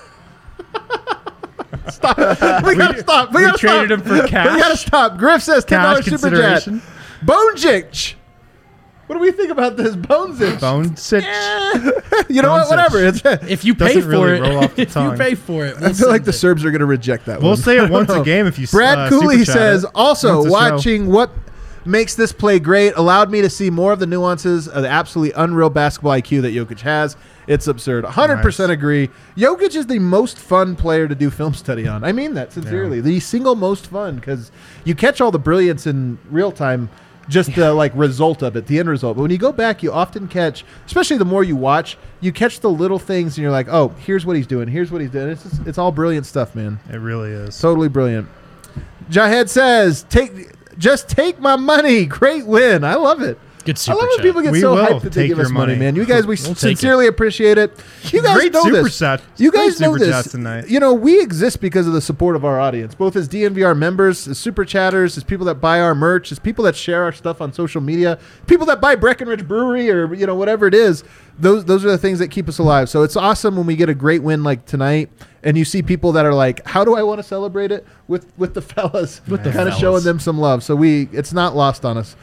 Speaker 3: Stop. We gotta stop.
Speaker 2: we traded him for cash.
Speaker 3: We gotta stop. Griff says $10
Speaker 2: Cash
Speaker 3: super chat.
Speaker 2: consideration.
Speaker 3: Bonejich. What do we think about this Bonezich?
Speaker 2: Bone sitch.
Speaker 3: You know what?
Speaker 2: Bonezich.
Speaker 3: Whatever. It's,
Speaker 1: If you
Speaker 2: Doesn't
Speaker 1: pay for
Speaker 2: really
Speaker 1: it,
Speaker 2: roll off the
Speaker 1: if you
Speaker 2: tongue.
Speaker 1: pay for it,
Speaker 3: I
Speaker 1: we'll
Speaker 3: feel like
Speaker 1: send
Speaker 3: the
Speaker 1: it.
Speaker 3: Serbs are going to reject that
Speaker 2: We'll
Speaker 3: one.
Speaker 2: say
Speaker 3: I
Speaker 2: it
Speaker 3: don't
Speaker 2: once
Speaker 3: know.
Speaker 2: a game if you.
Speaker 3: Brad Cooley
Speaker 2: super chat
Speaker 3: says,
Speaker 2: it.
Speaker 3: also
Speaker 2: Once a show.
Speaker 3: watching what makes this play great allowed me to see more of the nuances of the absolutely unreal basketball IQ that Jokic has. It's absurd. 100%
Speaker 2: Nice.
Speaker 3: agree. Jokic is the most fun player to do film study on. I mean that sincerely.
Speaker 2: Yeah.
Speaker 3: The single most fun because you catch all the brilliance in real time, just the like result of it, the end result. But when you go back, you often catch, especially the more you watch, you catch the little things and you're like, oh, here's what he's doing. Here's what he's doing. It's all brilliant stuff, man.
Speaker 2: It really is.
Speaker 3: Totally brilliant. Jahed says, just take my money. Great win. I love it.
Speaker 1: Good
Speaker 3: I
Speaker 1: super
Speaker 3: love when
Speaker 1: chat.
Speaker 3: people get
Speaker 2: We
Speaker 3: so
Speaker 2: will
Speaker 3: hyped that they
Speaker 2: take
Speaker 3: give us
Speaker 2: your
Speaker 3: money,
Speaker 2: money.
Speaker 3: man. You guys, we
Speaker 1: take
Speaker 3: sincerely appreciate it. You guys
Speaker 2: Great
Speaker 3: know
Speaker 2: super
Speaker 3: this.
Speaker 2: chat.
Speaker 3: You guys
Speaker 2: Great
Speaker 3: know
Speaker 2: super
Speaker 3: this.
Speaker 2: chats tonight.
Speaker 3: You know, we exist because of the support of our audience, both as DNVR members, as super chatters, as people that buy our merch, as people that share our stuff on social media, people that buy Breckenridge Brewery or, you know, whatever it is. Those are the things that keep us alive. So it's awesome when we get a great win like tonight and you see people that are like, how do I want to celebrate it with the fellas?
Speaker 1: With the
Speaker 3: kind of
Speaker 1: fellas.
Speaker 3: showing them some love. So it's not lost on us.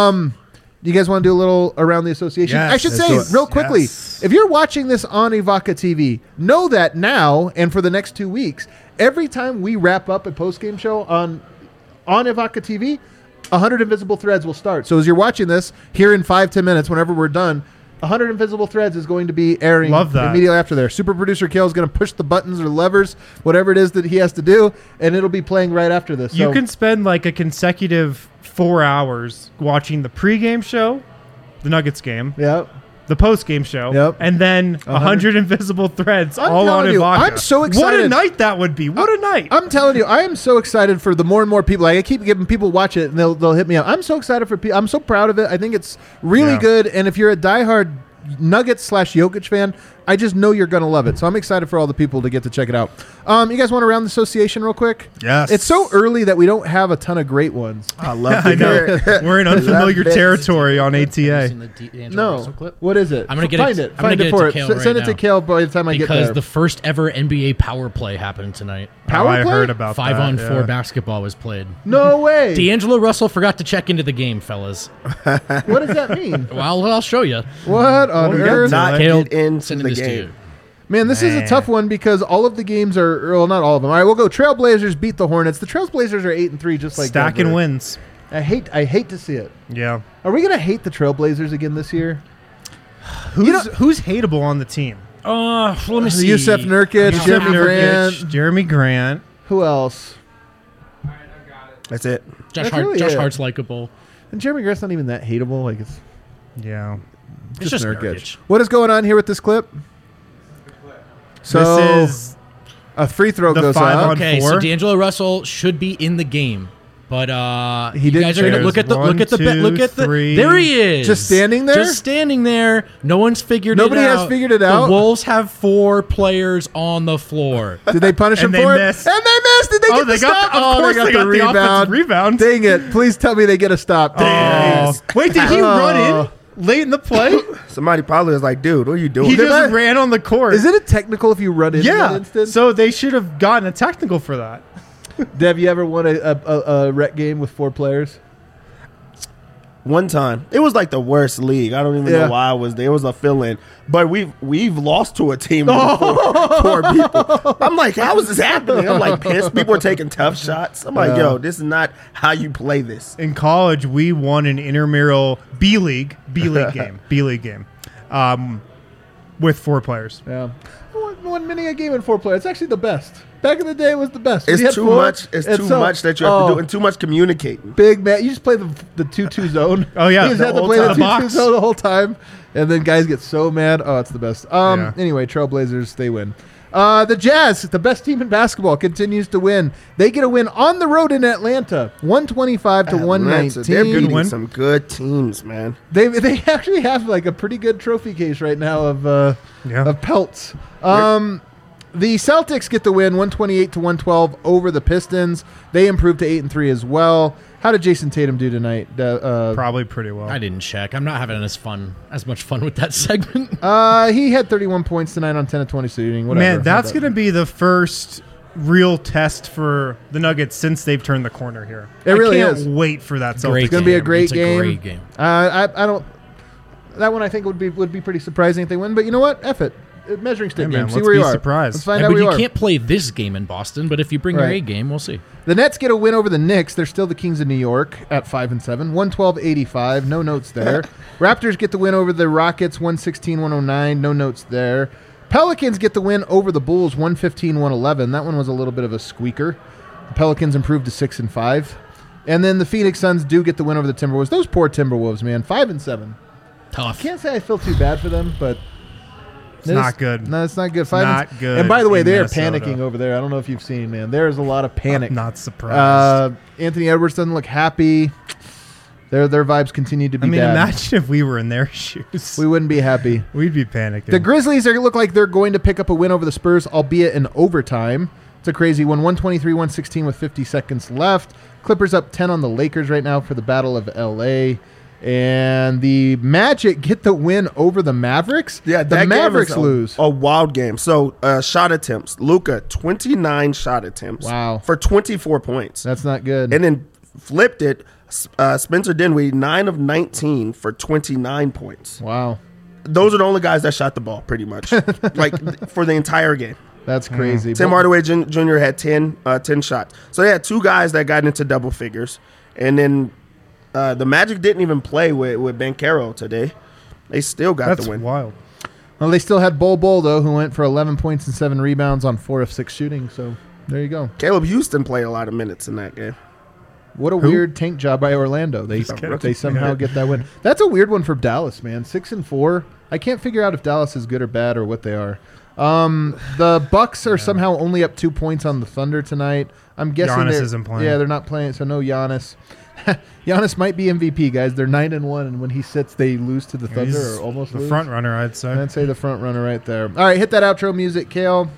Speaker 3: You guys want to do a little around the association?
Speaker 2: Yes.
Speaker 3: I should
Speaker 2: Let's
Speaker 3: say
Speaker 2: do it.
Speaker 3: real quickly,
Speaker 2: Yes.
Speaker 3: if you're watching this on Ivaka TV, know that now and for the next 2 weeks, every time we wrap up a post-game show on Ivaka TV, 100 Invisible Threads will start. So as you're watching this, here in 5-10 minutes, whenever we're done, 100 Invisible Threads is going to be airing
Speaker 2: Love that.
Speaker 3: immediately after there. Super producer Kale is going to push the buttons or levers, whatever it is that he has to do, and it'll be playing right after this.
Speaker 2: You
Speaker 3: So-
Speaker 2: can spend like a consecutive 4 hours watching the pregame show, the Nuggets game,
Speaker 3: yeah.
Speaker 2: the postgame show,
Speaker 3: Yep.
Speaker 2: and then 100 invisible threads
Speaker 3: I'm
Speaker 2: all on
Speaker 3: telling you,
Speaker 2: Ivaka.
Speaker 3: I'm so
Speaker 2: What a
Speaker 3: excited.
Speaker 2: night that would be. What a night.
Speaker 3: I'm telling you, I am so excited for the more and more people. Like I keep giving people watch it, and they'll hit me up. I'm so excited for people. I'm so proud of it. I think it's really
Speaker 2: Yeah.
Speaker 3: good. And if you're a diehard Nuggets/Jokic fan, I just know you're gonna love it. So I'm excited for all the people to get to check it out. You guys want to round the association real quick?
Speaker 2: Yes.
Speaker 3: It's so early that we don't have a ton of great ones.
Speaker 4: I love to
Speaker 2: I know.
Speaker 4: hear it.
Speaker 2: We're in unfamiliar
Speaker 4: Love it.
Speaker 2: territory on
Speaker 1: Have you
Speaker 2: ATA.
Speaker 1: seen the D'Angelo Russell
Speaker 3: No,
Speaker 1: clip?
Speaker 3: what is it?
Speaker 1: I'm gonna get
Speaker 3: find
Speaker 1: it-
Speaker 3: it.
Speaker 1: I'm gonna
Speaker 3: Find
Speaker 1: get
Speaker 3: it
Speaker 1: it
Speaker 3: for
Speaker 1: to
Speaker 3: it.
Speaker 1: Kale
Speaker 3: Send
Speaker 1: right
Speaker 3: it to
Speaker 1: now.
Speaker 3: Kale by the time I get
Speaker 1: Because
Speaker 3: there.
Speaker 1: the first ever NBA power play happened tonight.
Speaker 3: Power
Speaker 2: I
Speaker 3: play?
Speaker 2: heard about
Speaker 1: 5-on-4
Speaker 2: that. yeah.
Speaker 1: basketball was played.
Speaker 3: No way.
Speaker 1: D'Angelo Russell forgot to check into the game, fellas.
Speaker 3: What does that mean?
Speaker 1: Well, I'll show you.
Speaker 3: What on
Speaker 2: Well,
Speaker 3: earth?
Speaker 4: Not
Speaker 1: Kale,
Speaker 4: get into
Speaker 1: sending
Speaker 4: the
Speaker 1: this to
Speaker 4: game.
Speaker 1: you.
Speaker 3: Man, this is a tough one because all of the games are, well, not all of them. All right, we'll go. Trailblazers beat the Hornets. The Trailblazers are 8-3, just like
Speaker 2: Stacking
Speaker 3: Denver.
Speaker 2: wins.
Speaker 3: I hate to see it.
Speaker 2: Yeah.
Speaker 3: Are we gonna hate the Trailblazers again this year?
Speaker 2: Who's hateable on the team?
Speaker 1: Let me see.
Speaker 3: Yusef Nurkic, Jeremy Grant.
Speaker 2: Jeremy Grant.
Speaker 3: Who else?
Speaker 4: That's it.
Speaker 1: Josh,
Speaker 3: That's really
Speaker 1: Josh
Speaker 3: it.
Speaker 1: Hart's likable.
Speaker 3: And Jeremy Grant's not even that hateable. Like it's
Speaker 2: Yeah.
Speaker 1: It's just Nurkic.
Speaker 3: What is going on here with this clip? So
Speaker 2: This is
Speaker 3: a free throw
Speaker 2: the
Speaker 3: goes
Speaker 2: 5
Speaker 3: up.
Speaker 2: on
Speaker 1: Okay, so
Speaker 2: 4.
Speaker 1: D'Angelo Russell should be in the game, but
Speaker 3: He
Speaker 1: you
Speaker 3: didn't
Speaker 1: guys are gonna
Speaker 2: check.
Speaker 1: look at the
Speaker 2: One,
Speaker 1: look at the
Speaker 2: two,
Speaker 1: look at the
Speaker 2: three.
Speaker 1: there he is,
Speaker 3: Just standing there?
Speaker 1: just standing there. No one's figured
Speaker 3: Nobody
Speaker 1: it out.
Speaker 3: has figured it out?
Speaker 1: The Wolves have 4 players on the floor.
Speaker 3: Did they punish him
Speaker 2: And they
Speaker 3: for
Speaker 2: missed.
Speaker 3: it? And they missed. Did they
Speaker 2: Oh,
Speaker 3: get
Speaker 2: they
Speaker 3: the
Speaker 2: got
Speaker 3: stop?
Speaker 2: the- of
Speaker 3: Oh,
Speaker 2: course
Speaker 3: they got
Speaker 2: they
Speaker 3: the
Speaker 2: got the
Speaker 3: rebound.
Speaker 2: offensive rebound.
Speaker 3: Dang it! Please tell me they get a stop. Dang.
Speaker 2: Oh. Wait, did he run
Speaker 3: Oh.
Speaker 2: in late in the play?
Speaker 4: Somebody probably was like, dude, what are you doing?
Speaker 2: He
Speaker 3: Did
Speaker 2: just
Speaker 3: I-
Speaker 2: ran on the court.
Speaker 3: Is it a technical if you run in that
Speaker 2: Yeah.
Speaker 3: instance?
Speaker 2: So they should have gotten a technical for that.
Speaker 3: Dev, you ever won a rec game with 4 players?
Speaker 4: One time, it was like the worst league. I don't even
Speaker 3: Yeah.
Speaker 4: know why I was there. It was a fill-in, but we've lost to a team with four people. I'm like, how is this happening? I'm like pissed. People are taking tough shots. I'm like,
Speaker 3: Yeah.
Speaker 4: yo, this is not how you play this.
Speaker 2: In college, we won an intramural B league game with 4 players.
Speaker 3: Yeah. one winning a game in 4 players. It's actually the best. Back in the day, it was the best.
Speaker 4: It's
Speaker 3: You had
Speaker 4: too
Speaker 3: four,
Speaker 4: much. It's
Speaker 3: and
Speaker 4: too
Speaker 3: so-
Speaker 4: much that you have to do, and too much communicating.
Speaker 3: Big man, you just play the 2-2 zone.
Speaker 2: Oh, yeah,
Speaker 3: you just
Speaker 2: the
Speaker 3: have to
Speaker 2: whole
Speaker 3: play the
Speaker 2: time.
Speaker 3: 2-2
Speaker 2: Box.
Speaker 3: zone the whole time, and then guys get so mad. Oh, it's the best.
Speaker 2: Yeah.
Speaker 3: Anyway, Trailblazers, they win. The Jazz, the best team in basketball, continues to win. They get a win on the road in Atlanta, 125 to
Speaker 4: Atlanta,
Speaker 3: 119.
Speaker 4: They're beating
Speaker 2: win.
Speaker 4: some good teams, man.
Speaker 3: They actually have like a pretty good trophy case right now of pelts. The Celtics get the win, 128 to 112 over the Pistons. They improved to 8-3 as well. How did Jason Tatum do tonight?
Speaker 2: Probably pretty well.
Speaker 1: I didn't check. I'm not having as much fun with that segment.
Speaker 3: He had 31 points tonight on 10 of 20 shooting. Whatever.
Speaker 2: Man, that's going to be the first real test for the Nuggets since they've turned the corner here.
Speaker 3: It really
Speaker 2: I can't
Speaker 3: is.
Speaker 2: wait for that.
Speaker 1: Great
Speaker 3: It's gonna be a
Speaker 1: game.
Speaker 3: great
Speaker 1: It's
Speaker 3: game.
Speaker 1: A great game.
Speaker 3: I don't. That one I think would be pretty surprising if they win. But you know what? F it. Measuring stick
Speaker 2: Yeah, man,
Speaker 3: game. See
Speaker 2: let's
Speaker 3: where
Speaker 2: be
Speaker 3: you are.
Speaker 2: surprised.
Speaker 3: Let's find
Speaker 1: Yeah,
Speaker 3: out
Speaker 1: but
Speaker 3: where
Speaker 1: you
Speaker 3: you are.
Speaker 1: can't play this game in Boston. But if you bring your
Speaker 3: Right.
Speaker 1: A game, we'll see.
Speaker 3: The Nets get a win over the Knicks. They're still the Kings of New York at 5-7, 112-85. No notes there. Raptors get the win over the Rockets, 116-109. No notes there. Pelicans get the win over the Bulls, 115-111. That one was a little bit of a squeaker. The Pelicans improved to 6-5. And then the Phoenix Suns do get the win over the Timberwolves. Those poor Timberwolves, man, 5-7.
Speaker 1: Tough.
Speaker 3: Can't say I feel too bad for them, but
Speaker 2: It's not good.
Speaker 3: No, it's not good.
Speaker 2: not good
Speaker 3: And by the way,
Speaker 2: in
Speaker 3: they are
Speaker 2: Minnesota.
Speaker 3: panicking over there. I don't know if you've seen, man. There is a lot of panic.
Speaker 2: Not surprised.
Speaker 3: Anthony Edwards doesn't look happy. Their vibes continue to be
Speaker 2: I mean,
Speaker 3: bad.
Speaker 2: imagine if we were in their shoes.
Speaker 3: We wouldn't be happy.
Speaker 2: We'd be panicking.
Speaker 3: The Grizzlies look like they're going to pick up a win over the Spurs, albeit in overtime. It's a crazy one. 123-116 with 50 seconds left. Clippers up 10 on the Lakers right now for the Battle of L.A. And the Magic get the win over the Mavericks.
Speaker 4: Yeah,
Speaker 3: the
Speaker 4: that
Speaker 3: Mavericks
Speaker 4: game is
Speaker 3: lose.
Speaker 4: a wild game. So shot attempts. Luka, 29 shot attempts.
Speaker 3: Wow.
Speaker 4: For 24 points.
Speaker 3: That's not good.
Speaker 4: And then flipped it. Spencer Dinwiddie, 9 of 19 for 29 points.
Speaker 3: Wow.
Speaker 4: Those are the only guys that shot the ball, pretty much, like for the entire game.
Speaker 3: That's crazy.
Speaker 4: Tim Hardaway Jr. had 10 shots. So they had two guys that got into double figures. And then the Magic didn't even play with Banchero today. They still got
Speaker 2: That's
Speaker 4: the win.
Speaker 2: wild.
Speaker 3: Well, they still had Bol Bol, though, who went for 11 points and 7 rebounds on 4 of 6 shooting. So there you go.
Speaker 4: Caleb Houston played a lot of minutes in that game.
Speaker 3: What a weird tank job by Orlando. They
Speaker 2: kidding.
Speaker 3: somehow get that win. That's a weird one for Dallas, man. 6-4. I can't figure out if Dallas is good or bad or what they are. The Bucks are somehow only up 2 points on the Thunder tonight. I'm guessing
Speaker 2: Giannis
Speaker 3: they're-
Speaker 2: isn't playing.
Speaker 3: Yeah, they're not playing, so no Giannis. Giannis might be MVP, guys. They're 9-1, and when he sits, they lose to the Thunder
Speaker 2: He's
Speaker 3: or almost
Speaker 2: the
Speaker 3: lose.
Speaker 2: front runner, I'd say.
Speaker 3: I'd say the front runner right there. All right, hit that outro music, Kale.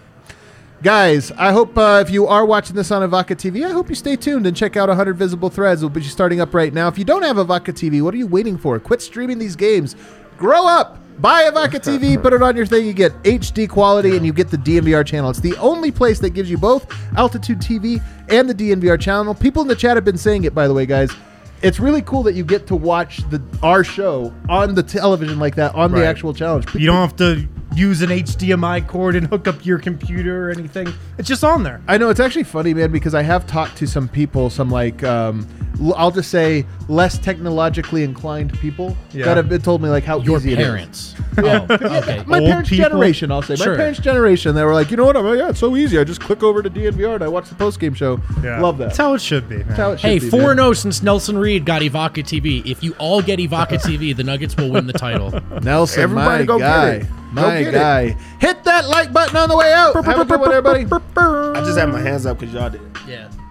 Speaker 3: Guys, I hope if you are watching this on Avaca TV, I hope you stay tuned and check out 100 Visible Threads. We'll be starting up right now. If you don't have Avaca TV, what are you waiting for? Quit streaming these games. Grow up. Buy Avaca TV, put it on your thing. You get HD quality and you get the DNVR channel. It's the only place that gives you both Altitude TV and the DNVR channel. People in the chat have been saying it, by the way, guys. It's really cool that you get to watch our show on the television like that, on the
Speaker 2: Right.
Speaker 3: actual challenge.
Speaker 2: You don't have to use an HDMI cord and hook up your computer or anything. It's just on there.
Speaker 3: I know, it's actually funny, man, because I have talked to some people, some like, I'll just say less technologically inclined people
Speaker 2: Yeah.
Speaker 3: that have been told me like how
Speaker 1: Your
Speaker 3: easy it is.
Speaker 1: parents. Oh, okay.
Speaker 3: My
Speaker 2: Old
Speaker 3: parents'
Speaker 2: people?
Speaker 3: generation, I'll say. My
Speaker 1: Sure.
Speaker 3: parents' generation, they were like, you know what? I'm like, yeah, it's so easy. I just click over to DNVR and I watch the post-game show.
Speaker 2: Yeah.
Speaker 3: Love that.
Speaker 2: That's how it should be, man.
Speaker 3: That's how it should
Speaker 1: Hey,
Speaker 3: be,
Speaker 1: 4-0 since Nelson Reed got Ivaca TV. If you all get Ivaca TV, the Nuggets will win the title.
Speaker 3: man. Nelson,
Speaker 4: Everybody
Speaker 3: my
Speaker 4: go get
Speaker 3: guy.
Speaker 4: it. Go
Speaker 3: My
Speaker 4: get it.
Speaker 3: guy. Hit that like button on the way out. Have a good one, everybody.
Speaker 4: I just had my hands up because y'all did.
Speaker 1: Yeah.